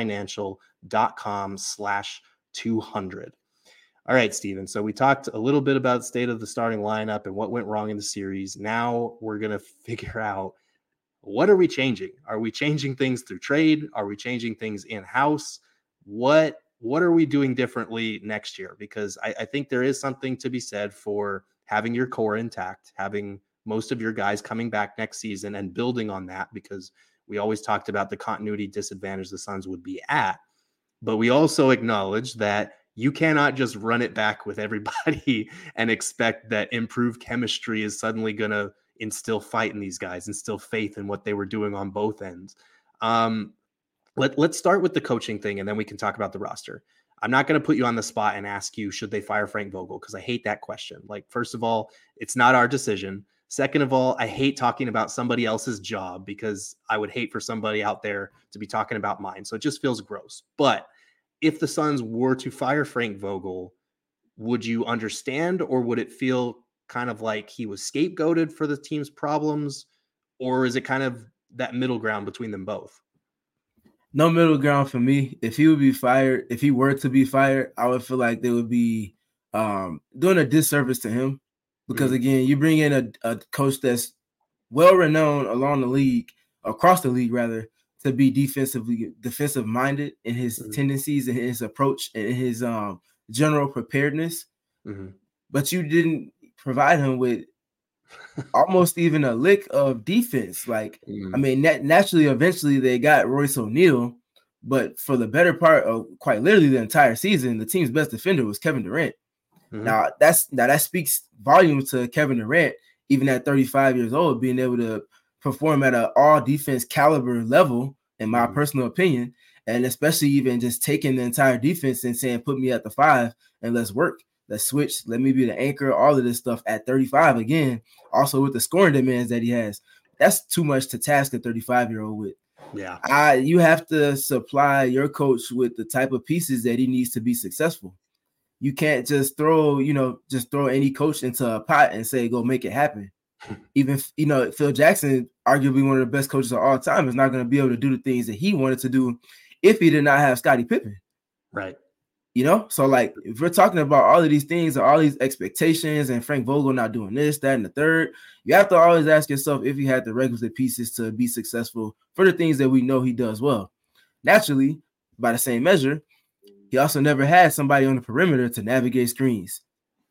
desertfinancial.com/200. All right, Steven. So we talked a little bit about the state of the starting lineup and what went wrong in the series. Now we're going to figure out, what are we changing? Are we changing things through trade? Are we changing things in-house? What are we doing differently next year? Because I think there is something to be said for having your core intact, having most of your guys coming back next season and building on that, because we always talked about the continuity disadvantage the Suns would be at. But we also acknowledge that you cannot just run it back with everybody and expect that improved chemistry is suddenly going to instill fight in these guys, instill faith in what they were doing on both ends. Let's start with the coaching thing, and then we can talk about the roster. I'm not going to put you on the spot and ask you, should they fire Frank Vogel? Because I hate that question. Like, first of all, it's not our decision. Second of all, I hate talking about somebody else's job because I would hate for somebody out there to be talking about mine. So it just feels gross. But if the Suns were to fire Frank Vogel, would you understand, or would it feel kind of like he was scapegoated for the team's problems? Or is it kind of that middle ground between them both? No middle ground for me. If he were to be fired, I would feel like they would be doing a disservice to him. Because again, you bring in a coach that's well-renowned across the league rather, to be defensive minded in his tendencies and his approach and his general preparedness. But you didn't provide him with almost even a lick of defense. Like, I mean, naturally, eventually they got Royce O'Neal, but for the better part of quite literally the entire season, the team's best defender was Kevin Durant. Now that speaks volumes to Kevin Durant, even at 35 years old, being able to perform at an all defense caliber level, in my personal opinion, and especially even just taking the entire defense and saying, put me at the 5 and let's work. Let's switch. Let me be the anchor. All of this stuff at 35 again. Also with the scoring demands that he has, that's too much to task a 35-year-old with. Yeah, you have to supply your coach with the type of pieces that he needs to be successful. You can't just throw any coach into a pot and say, go make it happen. Even, Phil Jackson, arguably one of the best coaches of all time, is not going to be able to do the things that he wanted to do if he did not have Scottie Pippen. Right. So like if we're talking about all of these things, all these expectations, and Frank Vogel not doing this, that, and the third, you have to always ask yourself if he had the requisite pieces to be successful for the things that we know he does well. Naturally, by the same measure, he also never had somebody on the perimeter to navigate screens,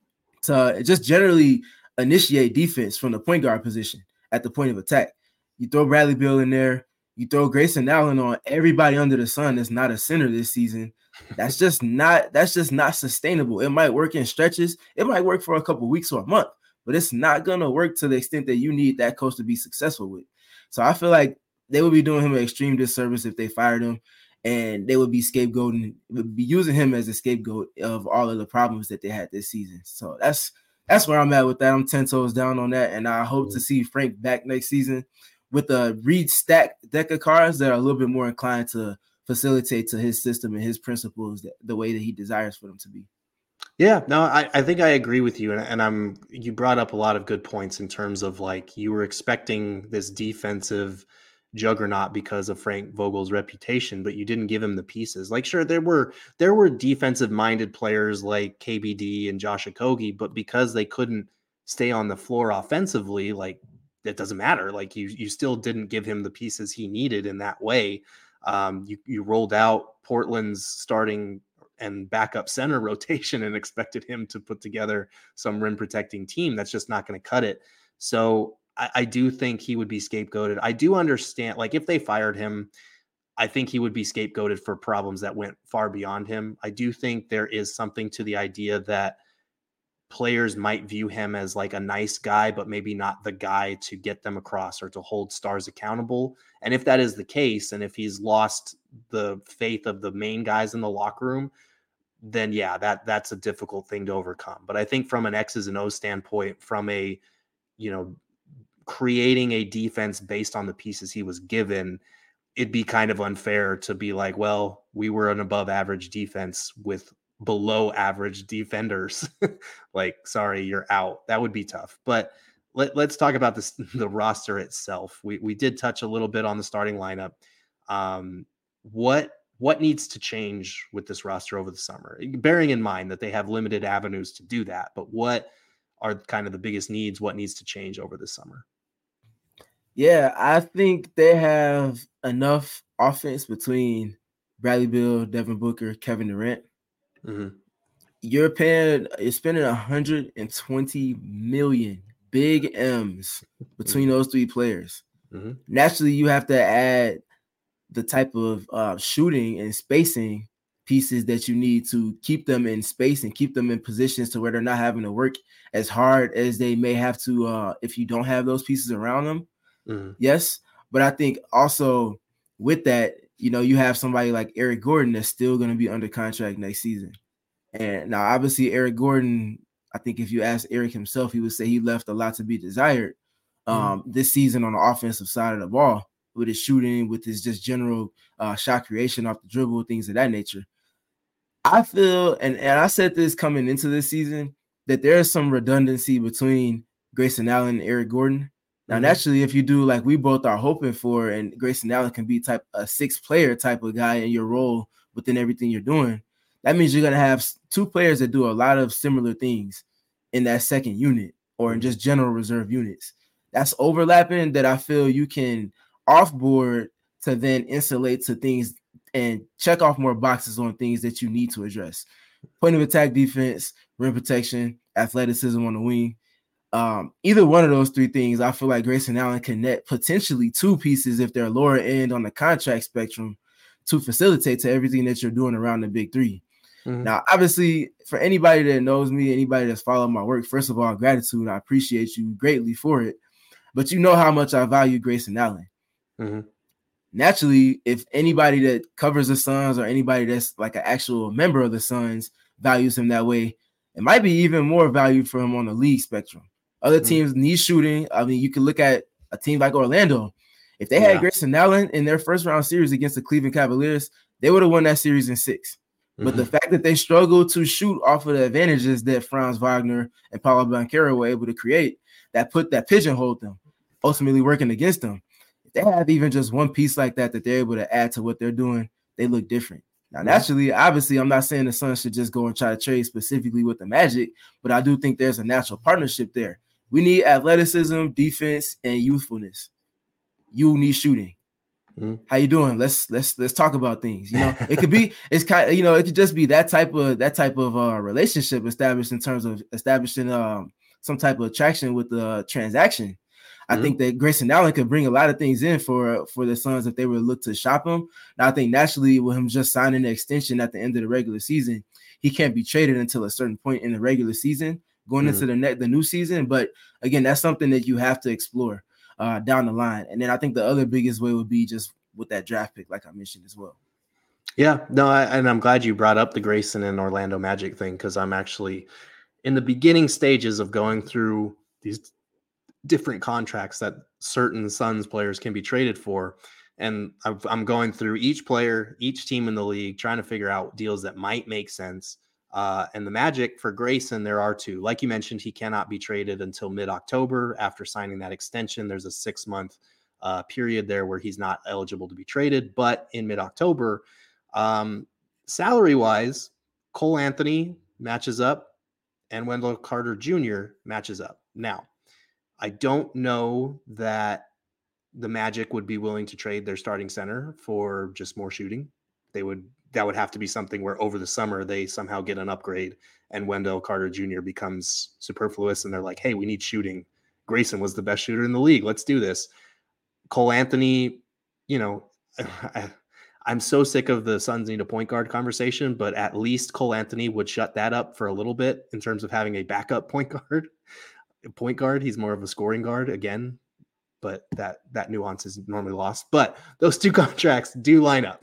to just generally initiate defense from the point guard position at the point of attack. You throw Bradley Beal in there, you throw Grayson Allen on everybody under the sun that's not a center this season. That's just not sustainable. It might work in stretches. It might work for a couple weeks or a month, but it's not going to work to the extent that you need that coach to be successful with. So I feel like they would be doing him an extreme disservice if they fired him, and they would be using him as a scapegoat of all of the problems that they had this season. So that's where I'm at with that. I'm 10 toes down on that, and I hope to see Frank back next season with a stacked deck of cards that are a little bit more inclined to facilitate to his system and his principles the way that he desires for them to be. Yeah, no, I think I agree with you. And you brought up a lot of good points in terms of like you were expecting this defensive juggernaut because of Frank Vogel's reputation, but you didn't give him the pieces. Like, sure, there were defensive minded players like KBD and Josh Okogie, but because they couldn't stay on the floor offensively, like it doesn't matter. Like you still didn't give him the pieces he needed in that way. You rolled out Portland's starting and backup center rotation and expected him to put together some rim protecting team. That's just not going to cut it. So I do think he would be scapegoated. I do understand, like if they fired him, I think he would be scapegoated for problems that went far beyond him. I do think there is something to the idea that players might view him as like a nice guy, but maybe not the guy to get them across or to hold stars accountable. And if that is the case, and if he's lost the faith of the main guys in the locker room, then yeah, that's a difficult thing to overcome. But I think from an X's and O's standpoint, from a, creating a defense based on the pieces he was given, it'd be kind of unfair to be like, well, we were an above average defense with below average defenders. Like, sorry, you're out. That would be tough. But let's talk about the roster itself. We did touch a little bit on the starting lineup. What needs to change with this roster over the summer, bearing in mind that they have limited avenues to do that, but what are kind of the biggest needs? What needs to change over the summer? Yeah, I think they have enough offense between Bradley Beal, Devin Booker, Kevin Durant. Mm-hmm. You're spending $120 million, big M's between those three players. Mm-hmm. Naturally, you have to add the type of shooting and spacing pieces that you need to keep them in space and keep them in positions to where they're not having to work as hard as they may have to if you don't have those pieces around them. Mm-hmm. Yes, but I think also with that, you have somebody like Eric Gordon that's still going to be under contract next season. And now, obviously, Eric Gordon, I think if you ask Eric himself, he would say he left a lot to be desired this season on the offensive side of the ball, with his shooting, with his just general shot creation off the dribble, things of that nature. I feel, and I said this coming into this season, that there is some redundancy between Grayson Allen and Eric Gordon. Now, naturally, if you do like we both are hoping for, and Grayson Allen can be a six-player type of guy in your role within everything you're doing, that means you're going to have two players that do a lot of similar things in that second unit or in just general reserve units. That's overlapping that I feel you can offboard to then insulate to things and check off more boxes on things that you need to address. Point of attack defense, rim protection, athleticism on the wing. Either one of those three things, I feel like Grayson Allen can net potentially two pieces if they're lower end on the contract spectrum to facilitate to everything that you're doing around the big three. Mm-hmm. Now, obviously, for anybody that knows me, anybody that's followed my work, first of all, gratitude. I appreciate you greatly for it. But you know how much I value Grayson Allen. Mm-hmm. Naturally, if anybody that covers the Suns or anybody that's like an actual member of the Suns values him that way, it might be even more value for him on the league spectrum. Other teams need shooting. I mean, you can look at a team like Orlando. If they had Grayson Allen in their first round series against the Cleveland Cavaliers, they would have won that series in 6. But the fact that they struggled to shoot off of the advantages that Franz Wagner and Paulo Banchero were able to create, that pigeonholed them, ultimately working against them. If they have even just one piece like that they're able to add to what they're doing, they look different. Now, naturally, obviously, I'm not saying the Suns should just go and try to trade specifically with the Magic, but I do think there's a natural partnership there. We need athleticism, defense, and youthfulness. You need shooting. How you doing? Let's talk about things. It could be, it's kind of, it could just be that type of relationship established in terms of establishing some type of attraction with the transaction. I think that Grayson Allen could bring a lot of things in for the Suns if they were to look to shop him. Now, I think naturally with him just signing the extension at the end of the regular season, he can't be traded until a certain point in the regular season going into the new season. But again, that's something that you have to explore down the line. And then I think the other biggest way would be just with that draft pick, like I mentioned as well. Yeah, no, and I'm glad you brought up the Grayson and Orlando Magic thing, because I'm actually in the beginning stages of going through these different contracts that certain Suns players can be traded for. And I'm going through each player, each team in the league, trying to figure out deals that might make sense. And the Magic for Grayson, there are two. Like you mentioned, he cannot be traded until mid-October after signing that extension. There's a 6-month period there where he's not eligible to be traded. But in mid-October, salary-wise, Cole Anthony matches up and Wendell Carter Jr. matches up. Now, I don't know that the Magic would be willing to trade their starting center for just more shooting. That would have to be something where over the summer they somehow get an upgrade and Wendell Carter Jr. becomes superfluous and they're like, hey, we need shooting. Grayson was the best shooter in the league. Let's do this. Cole Anthony, I'm so sick of the Suns need a point guard conversation, but at least Cole Anthony would shut that up for a little bit in terms of having a backup point guard. He's more of a scoring guard again, but that nuance is normally lost. But those two contracts do line up.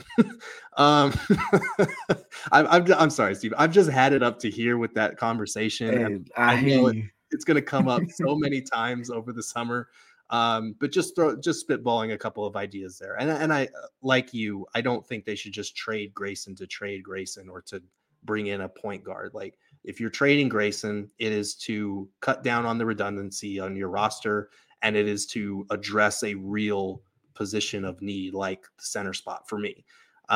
I'm sorry, Steve. I've just had it up to here with that conversation. And I know it's going to come up so many times over the summer. But just spitballing a couple of ideas there. And I, like you, I don't think they should just trade Grayson or to bring in a point guard. Like, if you're trading Grayson, it is to cut down on the redundancy on your roster, and it is to address a real position of need, like the center spot for me.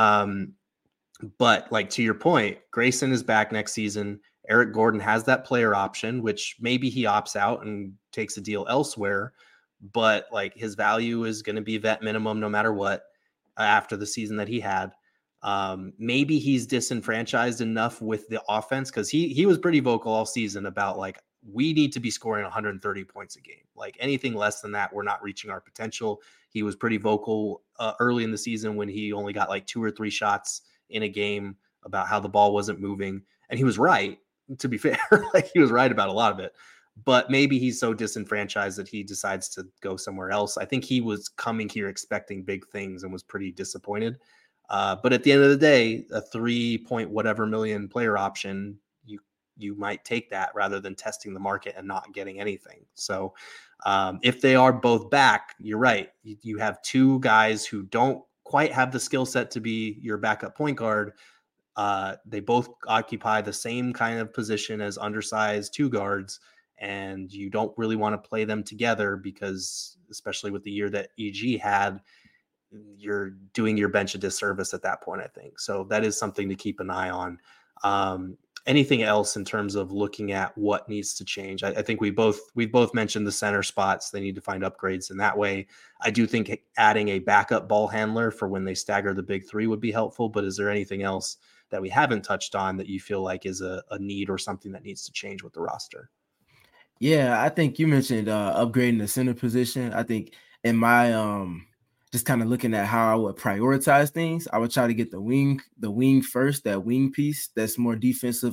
But like, to your point, Grayson is back next season. Eric Gordon has that player option, which maybe he opts out and takes a deal elsewhere, but like, his value is going to be vet minimum no matter what after the season that he had. Maybe he's disenfranchised enough with the offense, because he was pretty vocal all season about like, we need to be scoring 130 points a game. Like, anything less than that, we're not reaching our potential. He was pretty vocal early in the season when he only got like 2 or 3 shots in a game about how the ball wasn't moving. And he was right, to be fair. Like, he was right about a lot of it. But maybe he's so disenfranchised that he decides to go somewhere else. I think he was coming here expecting big things and was pretty disappointed. But at the end of the day, a 3-point whatever million player option, you might take that rather than testing the market and not getting anything. So if they are both back, you're right. You have two guys who don't quite have the skill set to be your backup point guard. They both occupy the same kind of position as undersized two guards, and you don't really want to play them together because, especially with the year that EG had, you're doing your bench a disservice at that point, I think. So that is something to keep an eye on. Anything else in terms of looking at what needs to change? I think we've both mentioned the center spots. They need to find upgrades in that way. I do think adding a backup ball handler for when they stagger the big three would be helpful, but is there anything else that we haven't touched on that you feel like is a need or something that needs to change with the roster? Yeah, I think you mentioned upgrading the center position. I think in my just kind of looking at how I would prioritize things, I would try to get the wing first, that wing piece that's more defensive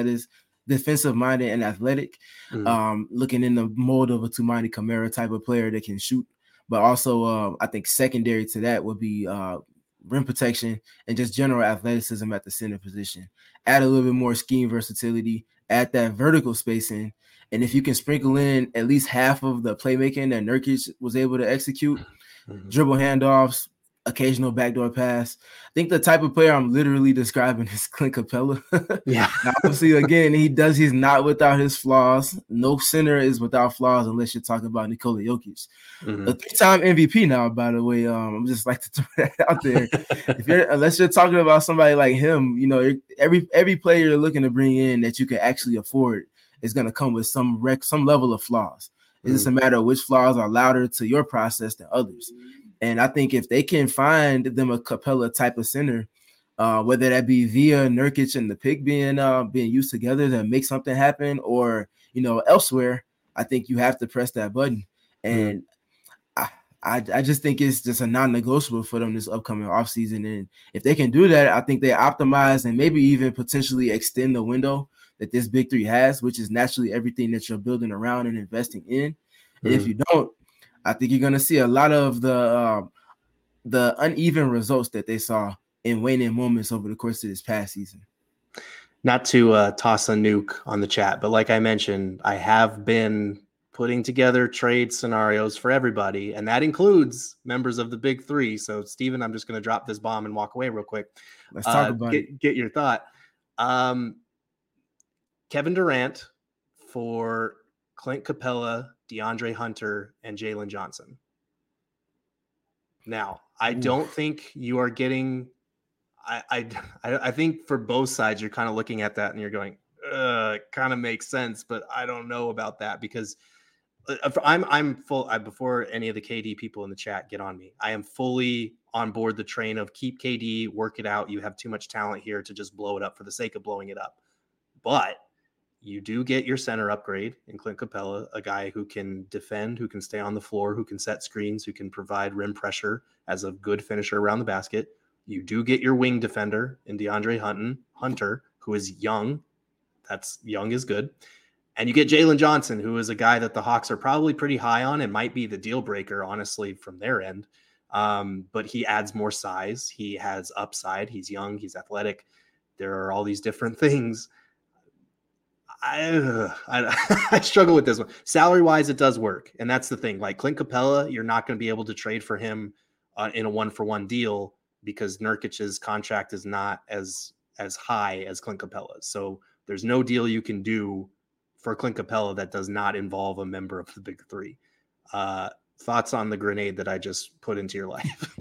minded and athletic. Looking in the mold of a Toumani Camara type of player that can shoot. But also I think secondary to that would be rim protection and just general athleticism at the center position. Add a little bit more scheme versatility, add that vertical spacing. And if you can sprinkle in at least half of the playmaking that Nurkic was able to execute, dribble handoffs, occasional backdoor pass. I think the type of player I'm literally describing is Clint Capella. Yeah. Now, obviously, again, he's not without his flaws. No center is without flaws unless you're talking about Nikola Jokic. Mhm. A 3-time MVP now, by the way. I'm just like to throw that out there. Unless you're talking about somebody like him, you know, every player you're looking to bring in that you can actually afford is going to come with some level of flaws. It's just a matter of which flaws are louder to your process than others. And I think if they can find them a Capella type of center, whether that be via Nurkic and the pick being used together to make something happen, or you know elsewhere, I think you have to press that button. And I just think it's just a non-negotiable for them this upcoming offseason. And if they can do that, I think they optimize and maybe even potentially extend the window that this big three has, which is naturally everything that you're building around and investing in. And if you don't, I think you're going to see a lot of the uneven results that they saw in waning moments over the course of this past season. Not to toss a nuke on the chat, but like I mentioned, I have been putting together trade scenarios for everybody, and that includes members of the big three. So, Steven, I'm just going to drop this bomb and walk away real quick. Let's talk about it. Get your thought. Kevin Durant for Clint Capella, DeAndre Hunter, and Jalen Johnson. Now, I don't think you are getting. I think for both sides, you're kind of looking at that and you're going, it kind of makes sense, but I don't know about that because I'm full. Before any of the KD people in the chat get on me, I am fully on board the train of keep KD, work it out. You have too much talent here to just blow it up for the sake of blowing it up. But you do get your center upgrade in Clint Capella, a guy who can defend, who can stay on the floor, who can set screens, who can provide rim pressure as a good finisher around the basket. You do get your wing defender in DeAndre Hunter, who is young. That's young is good. And you get Jalen Johnson, who is a guy that the Hawks are probably pretty high on and might be the deal breaker, honestly, from their end. But he adds more size. He has upside. He's young. He's athletic. There are all these different things. I struggle with this one. Salary-wise, it does work. And that's the thing. Like Clint Capella, you're not going to be able to trade for him in a one-for-one deal because Nurkic's contract is not as high as Clint Capella's. So there's no deal you can do for Clint Capella that does not involve a member of the big three. Thoughts on the grenade that I just put into your life?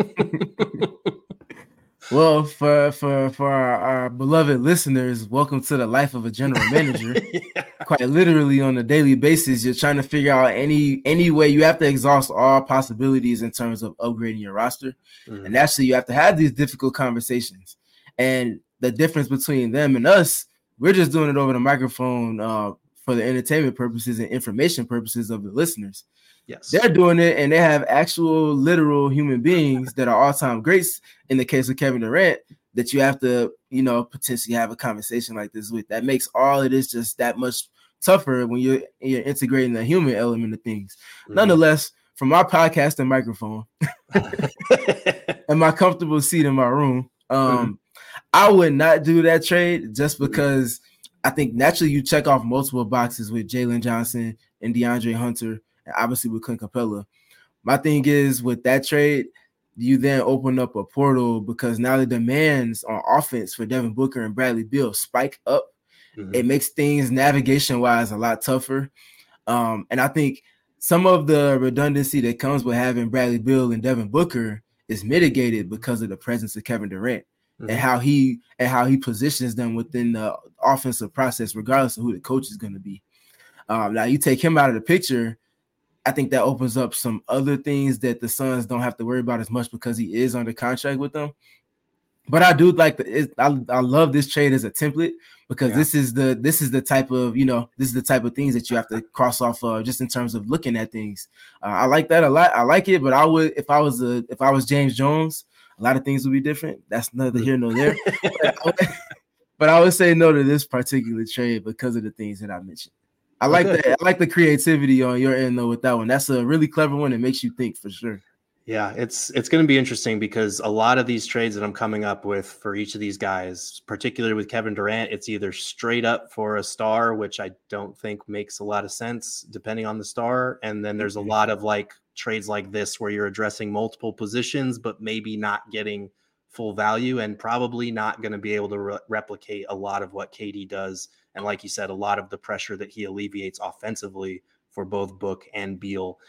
Well, for our beloved listeners, welcome to the life of a general manager. Yeah. Quite literally on a daily basis, you're trying to figure out any way. You have to exhaust all possibilities in terms of upgrading your roster. And actually, you have to have these difficult conversations. And the difference between them and us, we're just doing it over the microphone for the entertainment purposes and information purposes of the listeners. Yes. They're doing it, and they have actual literal human beings that are all-time greats in the case of Kevin Durant that you have to, you know, potentially have a conversation like this with. That makes all of this just that much tougher when you're integrating the human element of things. Nonetheless, from my podcast and microphone and my comfortable seat in my room, I would not do that trade just because I think naturally you check off multiple boxes with Jalen Johnson and DeAndre Hunter, and obviously with Clint Capella. My thing is with that trade, you then open up a portal because now the demands on offense for Devin Booker and Bradley Beal spike up. It makes things navigation-wise a lot tougher. And I think some of the redundancy that comes with having Bradley Beal and Devin Booker is mitigated because of the presence of Kevin Durant and how he positions them within the offensive process, regardless of who the coach is going to be. Now you take him out of the picture, I think that opens up some other things that the Suns don't have to worry about as much because he is under contract with them. But I do like I love this trade as a template because this is the type of, you know, this is the type of things that you have to cross off just in terms of looking at things. I like that a lot. I like it, but I would if I was James Jones, a lot of things would be different. That's neither here nor there. But I would say no to this particular trade because of the things that I mentioned. I like that. I like the creativity on your end though with that one. That's a really clever one. It makes you think for sure. Yeah, it's going to be interesting because a lot of these trades that I'm coming up with for each of these guys, particularly with Kevin Durant, it's either straight up for a star, which I don't think makes a lot of sense depending on the star. And then there's a lot of like trades like this where you're addressing multiple positions, but maybe not getting full value, and probably not going to be able to replicate a lot of what KD does. And like you said, a lot of the pressure that he alleviates offensively for both Book and Beal.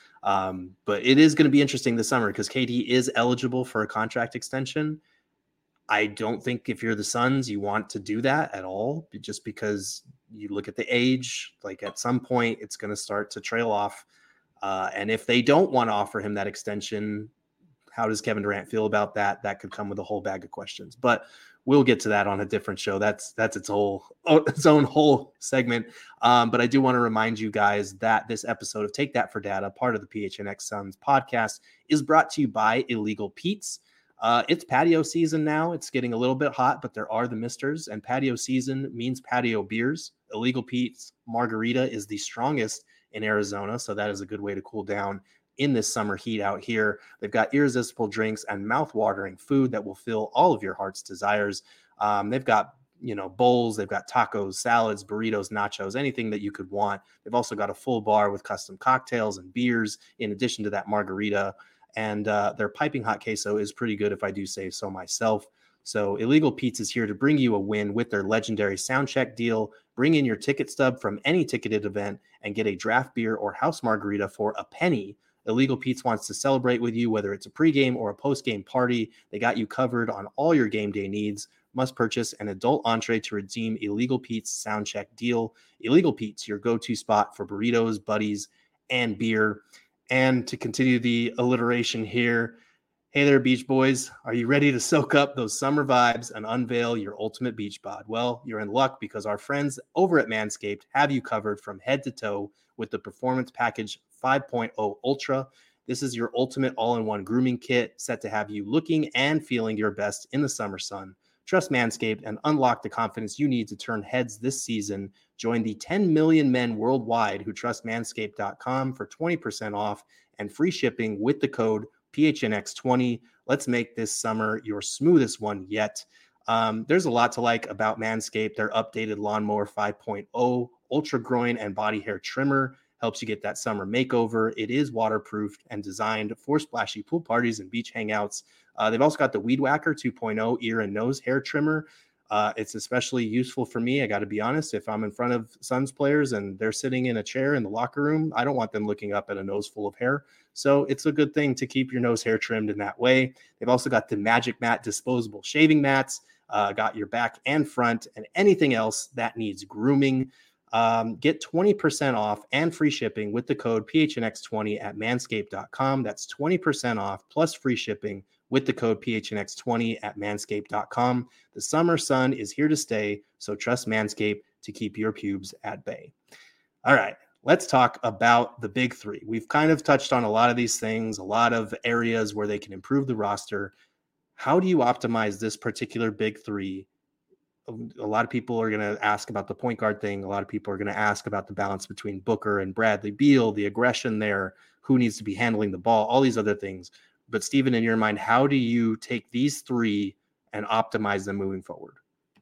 But it is going to be interesting this summer because KD is eligible for a contract extension. I don't think if you're the Suns, you want to do that at all, just because you look at the age, like at some point it's going to start to trail off. And if they don't want to offer him that extension, how does Kevin Durant feel about that? That could come with a whole bag of questions, but we'll get to that on a different show. That's its own whole segment. But I do want to remind you guys that this episode of Take That for Data, part of the PHNX Suns podcast, is brought to you by Illegal Pete's. It's patio season now. It's getting a little bit hot, but there are the misters, and patio season means patio beers. Illegal Pete's Margarita is the strongest in Arizona, so that is a good way to cool down in this summer heat out here. They've got irresistible drinks and mouth-watering food that will fill all of your heart's desires. They've got bowls, they've got tacos, salads, burritos, nachos, anything that you could want. They've also got a full bar with custom cocktails and beers in addition to that margarita. And their piping hot queso is pretty good, if I do say so myself. So Illegal Pete's is here to bring you a win with their legendary soundcheck deal. Bring in your ticket stub from any ticketed event and get a draft beer or house margarita for a penny. Illegal Pete's wants to celebrate with you, whether it's a pregame or a postgame party. They got you covered on all your game day needs. Must purchase an adult entree to redeem Illegal Pete's soundcheck deal. Illegal Pete's, your go-to spot for burritos, buddies, and beer. And to continue the alliteration here, hey there, Beach Boys. Are you ready to soak up those summer vibes and unveil your ultimate beach bod? Well, you're in luck because our friends over at Manscaped have you covered from head to toe with the Performance Package 5.0 Ultra. This is your ultimate all-in-one grooming kit set to have you looking and feeling your best in the summer sun. Trust Manscaped and unlock the confidence you need to turn heads this season. Join the 10 million men worldwide who trust Manscaped.com for 20% off and free shipping with the code PHNX20. Let's make this summer your smoothest one yet. There's a lot to like about Manscaped. Their updated Lawnmower 5.0 Ultra Groin and Body Hair Trimmer helps you get that summer makeover. It is waterproofed and designed for splashy pool parties and beach hangouts. They've also got the Weed Whacker 2.0 ear and nose hair trimmer. It's especially useful for me. I got to be honest. If I'm in front of Suns players and they're sitting in a chair in the locker room, I don't want them looking up at a nose full of hair. So it's a good thing to keep your nose hair trimmed in that way. They've also got the Magic Mat disposable shaving mats, got your back and front and anything else that needs grooming. Get 20% off and free shipping with the code PHNX20 at manscaped.com. That's 20% off plus free shipping with the code PHNX20 at manscaped.com. The summer sun is here to stay, so trust Manscaped to keep your pubes at bay. All right, let's talk about the big three. We've kind of touched on a lot of these things, a lot of areas where they can improve the roster. How do you optimize this particular big three? A lot of people are going to ask about the point guard thing. A lot of people are going to ask about the balance between Booker and Bradley Beal, the aggression there, who needs to be handling the ball, all these other things. But Steven, in your mind, how do you take these three and optimize them moving forward?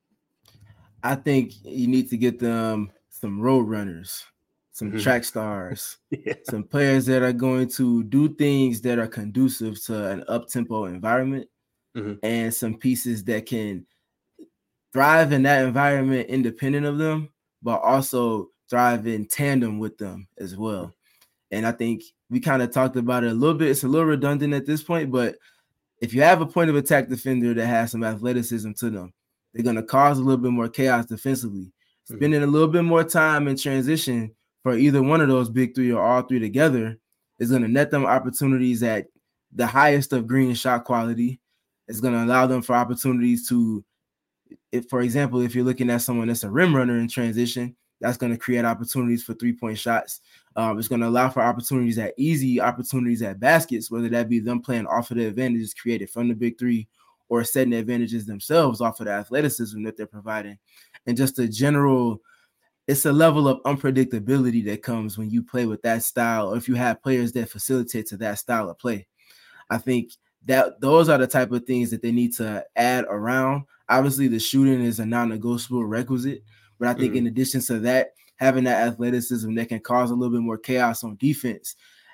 I think you need to get them some road runners, some track stars, some players that are going to do things that are conducive to an up-tempo environment, and some pieces that can thrive in that environment independent of them, but also thrive in tandem with them as well. And I think we kind of talked about it a little bit. It's a little redundant at this point, but if you have a point of attack defender that has some athleticism to them, they're going to cause a little bit more chaos defensively. Spending a little bit more time in transition for either one of those big three or all three together is going to net them opportunities at the highest of green shot quality. It's going to allow them for opportunities to, for example, if you're looking at someone that's a rim runner in transition, that's going to create opportunities for three-point shots. It's going to allow for opportunities at easy opportunities at baskets, whether that be them playing off of the advantages created from the big three or setting the advantages themselves off of the athleticism that they're providing. And just a general, it's a level of unpredictability that comes when you play with that style, or if you have players that facilitate to that style of play. I think that those are the type of things that they need to add around. Obviously, the shooting is a non-negotiable requisite, but I think in addition to that, having that athleticism that can cause a little bit more chaos on defense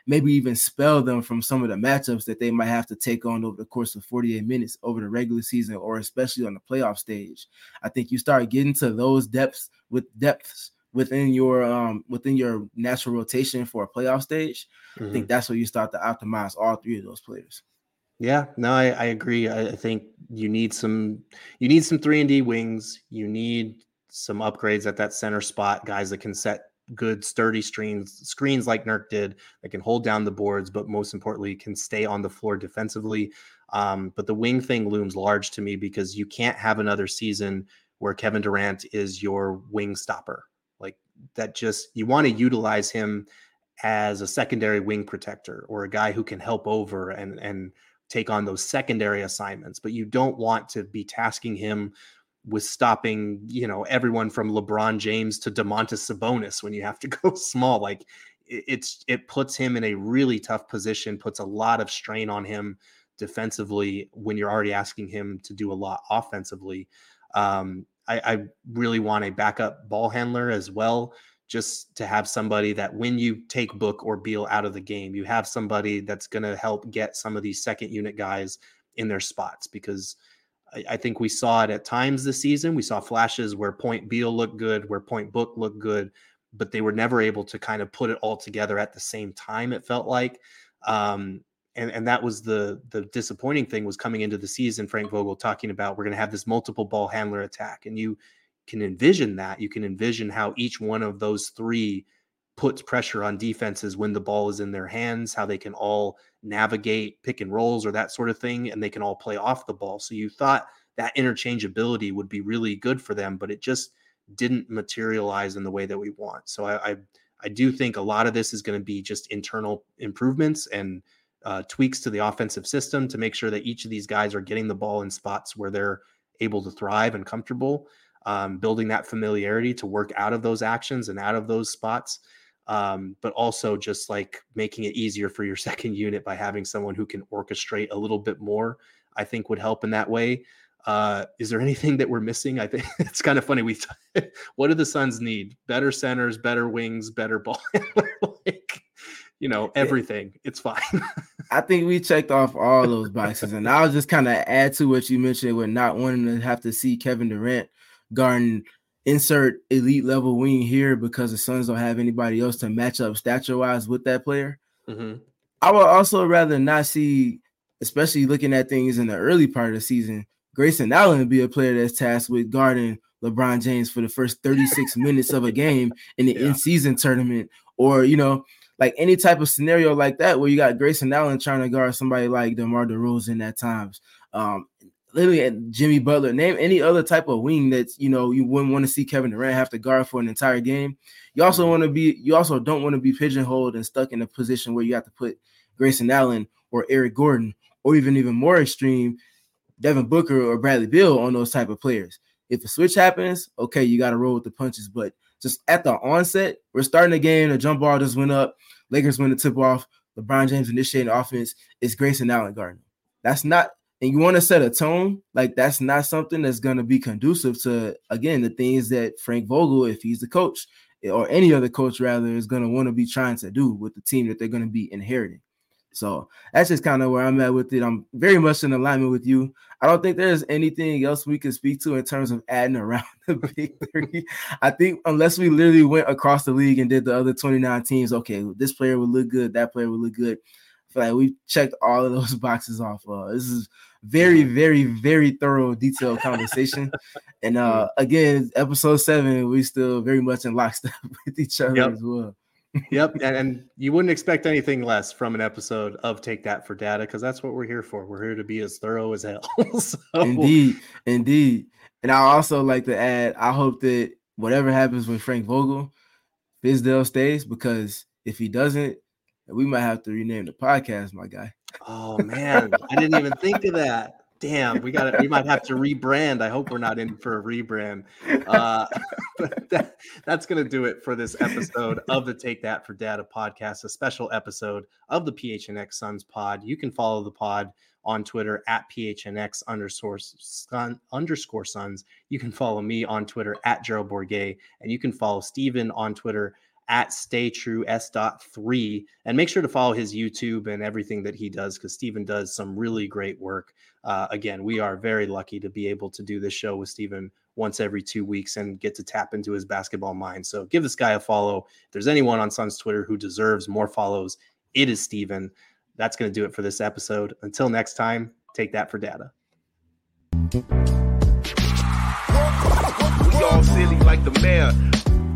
maybe even spell them from some of the matchups that they might have to take on over the course of 48 minutes over the regular season, or especially on the playoff stage. I think you start getting to those depths within your natural rotation for a playoff stage. I think that's where you start to optimize all three of those players. Yeah, no, I agree. I think you need some 3-and-D wings. You need some upgrades at that center spot, guys that can set good sturdy screens like Nurk did, that can hold down the boards, but most importantly can stay on the floor defensively. But the wing thing looms large to me because you can't have another season where Kevin Durant is your wing stopper. Like that, just, you want to utilize him as a secondary wing protector or a guy who can help over and take on those secondary assignments, but you don't want to be tasking him with stopping, everyone from LeBron James to Domantas Sabonis when you have to go small. Like it puts him in a really tough position, puts a lot of strain on him defensively when you're already asking him to do a lot offensively. I really want a backup ball handler as well, just to have somebody that when you take Book or Beal out of the game, you have somebody that's going to help get some of these second unit guys in their spots, because I think we saw it at times this season. We saw flashes where Point Beal looked good, where Point Book looked good, but they were never able to kind of put it all together at the same time, it felt like. And that was the disappointing thing, was coming into the season, Frank Vogel talking about, we're going to have this multiple ball handler attack. And you can envision that. You can envision how each one of those three puts pressure on defenses when the ball is in their hands, how they can all navigate pick and rolls or that sort of thing, and they can all play off the ball. So you thought that interchangeability would be really good for them, but it just didn't materialize in the way that we want. So I do think a lot of this is going to be just internal improvements and tweaks to the offensive system to make sure that each of these guys are getting the ball in spots where they're able to thrive and comfortable, building that familiarity to work out of those actions and out of those spots. But also just like making it easier for your second unit by having someone who can orchestrate a little bit more, I think would help in that way. Is there anything that we're missing? I think it's kind of funny. What do the Suns need? Better centers, better wings, better ball handler, everything. It's fine. I think we checked off all those boxes, and I'll just kind of add to what you mentioned with not wanting to have to see Kevin Durant guarding insert elite level wing here because the Suns don't have anybody else to match up stature wise with that player. Mm-hmm. I would also rather not see, especially looking at things in the early part of the season, Grayson Allen be a player that's tasked with guarding LeBron James for the first 36 minutes of a game in the in-season tournament, or, like any type of scenario like that where you got Grayson Allen trying to guard somebody like DeMar DeRozan at times. Literally Jimmy Butler, name any other type of wing that you wouldn't want to see Kevin Durant have to guard for an entire game. You also don't want to be pigeonholed and stuck in a position where you have to put Grayson Allen or Eric Gordon, or even more extreme, Devin Booker or Bradley Beal on those type of players. If a switch happens, okay, you got to roll with the punches. But just at the onset, we're starting the game, the jump ball just went up, Lakers win the tip off, LeBron James initiating offense, it's Grayson Allen guarding. That's not. And you want to set a tone, like that's not something that's going to be conducive to, again, the things that Frank Vogel, if he's the coach, or any other coach rather, is going to want to be trying to do with the team that they're going to be inheriting. So that's just kind of where I'm at with it. I'm very much in alignment with you. I don't think there's anything else we can speak to in terms of adding around the big three. I think unless we literally went across the league and did the other 29 teams, okay, this player would look good, that player would look good. I feel like we've checked all of those boxes off. This is very, very, very thorough, detailed conversation. And again, episode 7, we still very much in lockstep with each other as well. Yep. And you wouldn't expect anything less from an episode of Take That for Data, because that's what we're here for. We're here to be as thorough as hell. So. Indeed. And I also like to add, I hope that whatever happens with Frank Vogel, Fizdale stays, because if he doesn't, we might have to rename the podcast, my guy. Oh man, I didn't even think of that. Damn, we might have to rebrand. I hope we're not in for a rebrand. But that's going to do it for this episode of the Take That for Data podcast, a special episode of the PHNX Suns pod. You can follow the pod on Twitter at PHNX_Suns. You can follow me on Twitter at Gerald Bourguet, and you can follow Steven on Twitter at StayTrueS.3. And make sure to follow his YouTube and everything that he does, because Steven does some really great work. Again, we are very lucky to be able to do this show with Steven once every 2 weeks and get to tap into his basketball mind. So give this guy a follow. If there's anyone on Suns Twitter who deserves more follows, it is Steven. That's going to do it for this episode. Until next time, take that for data. We all silly like the mayor.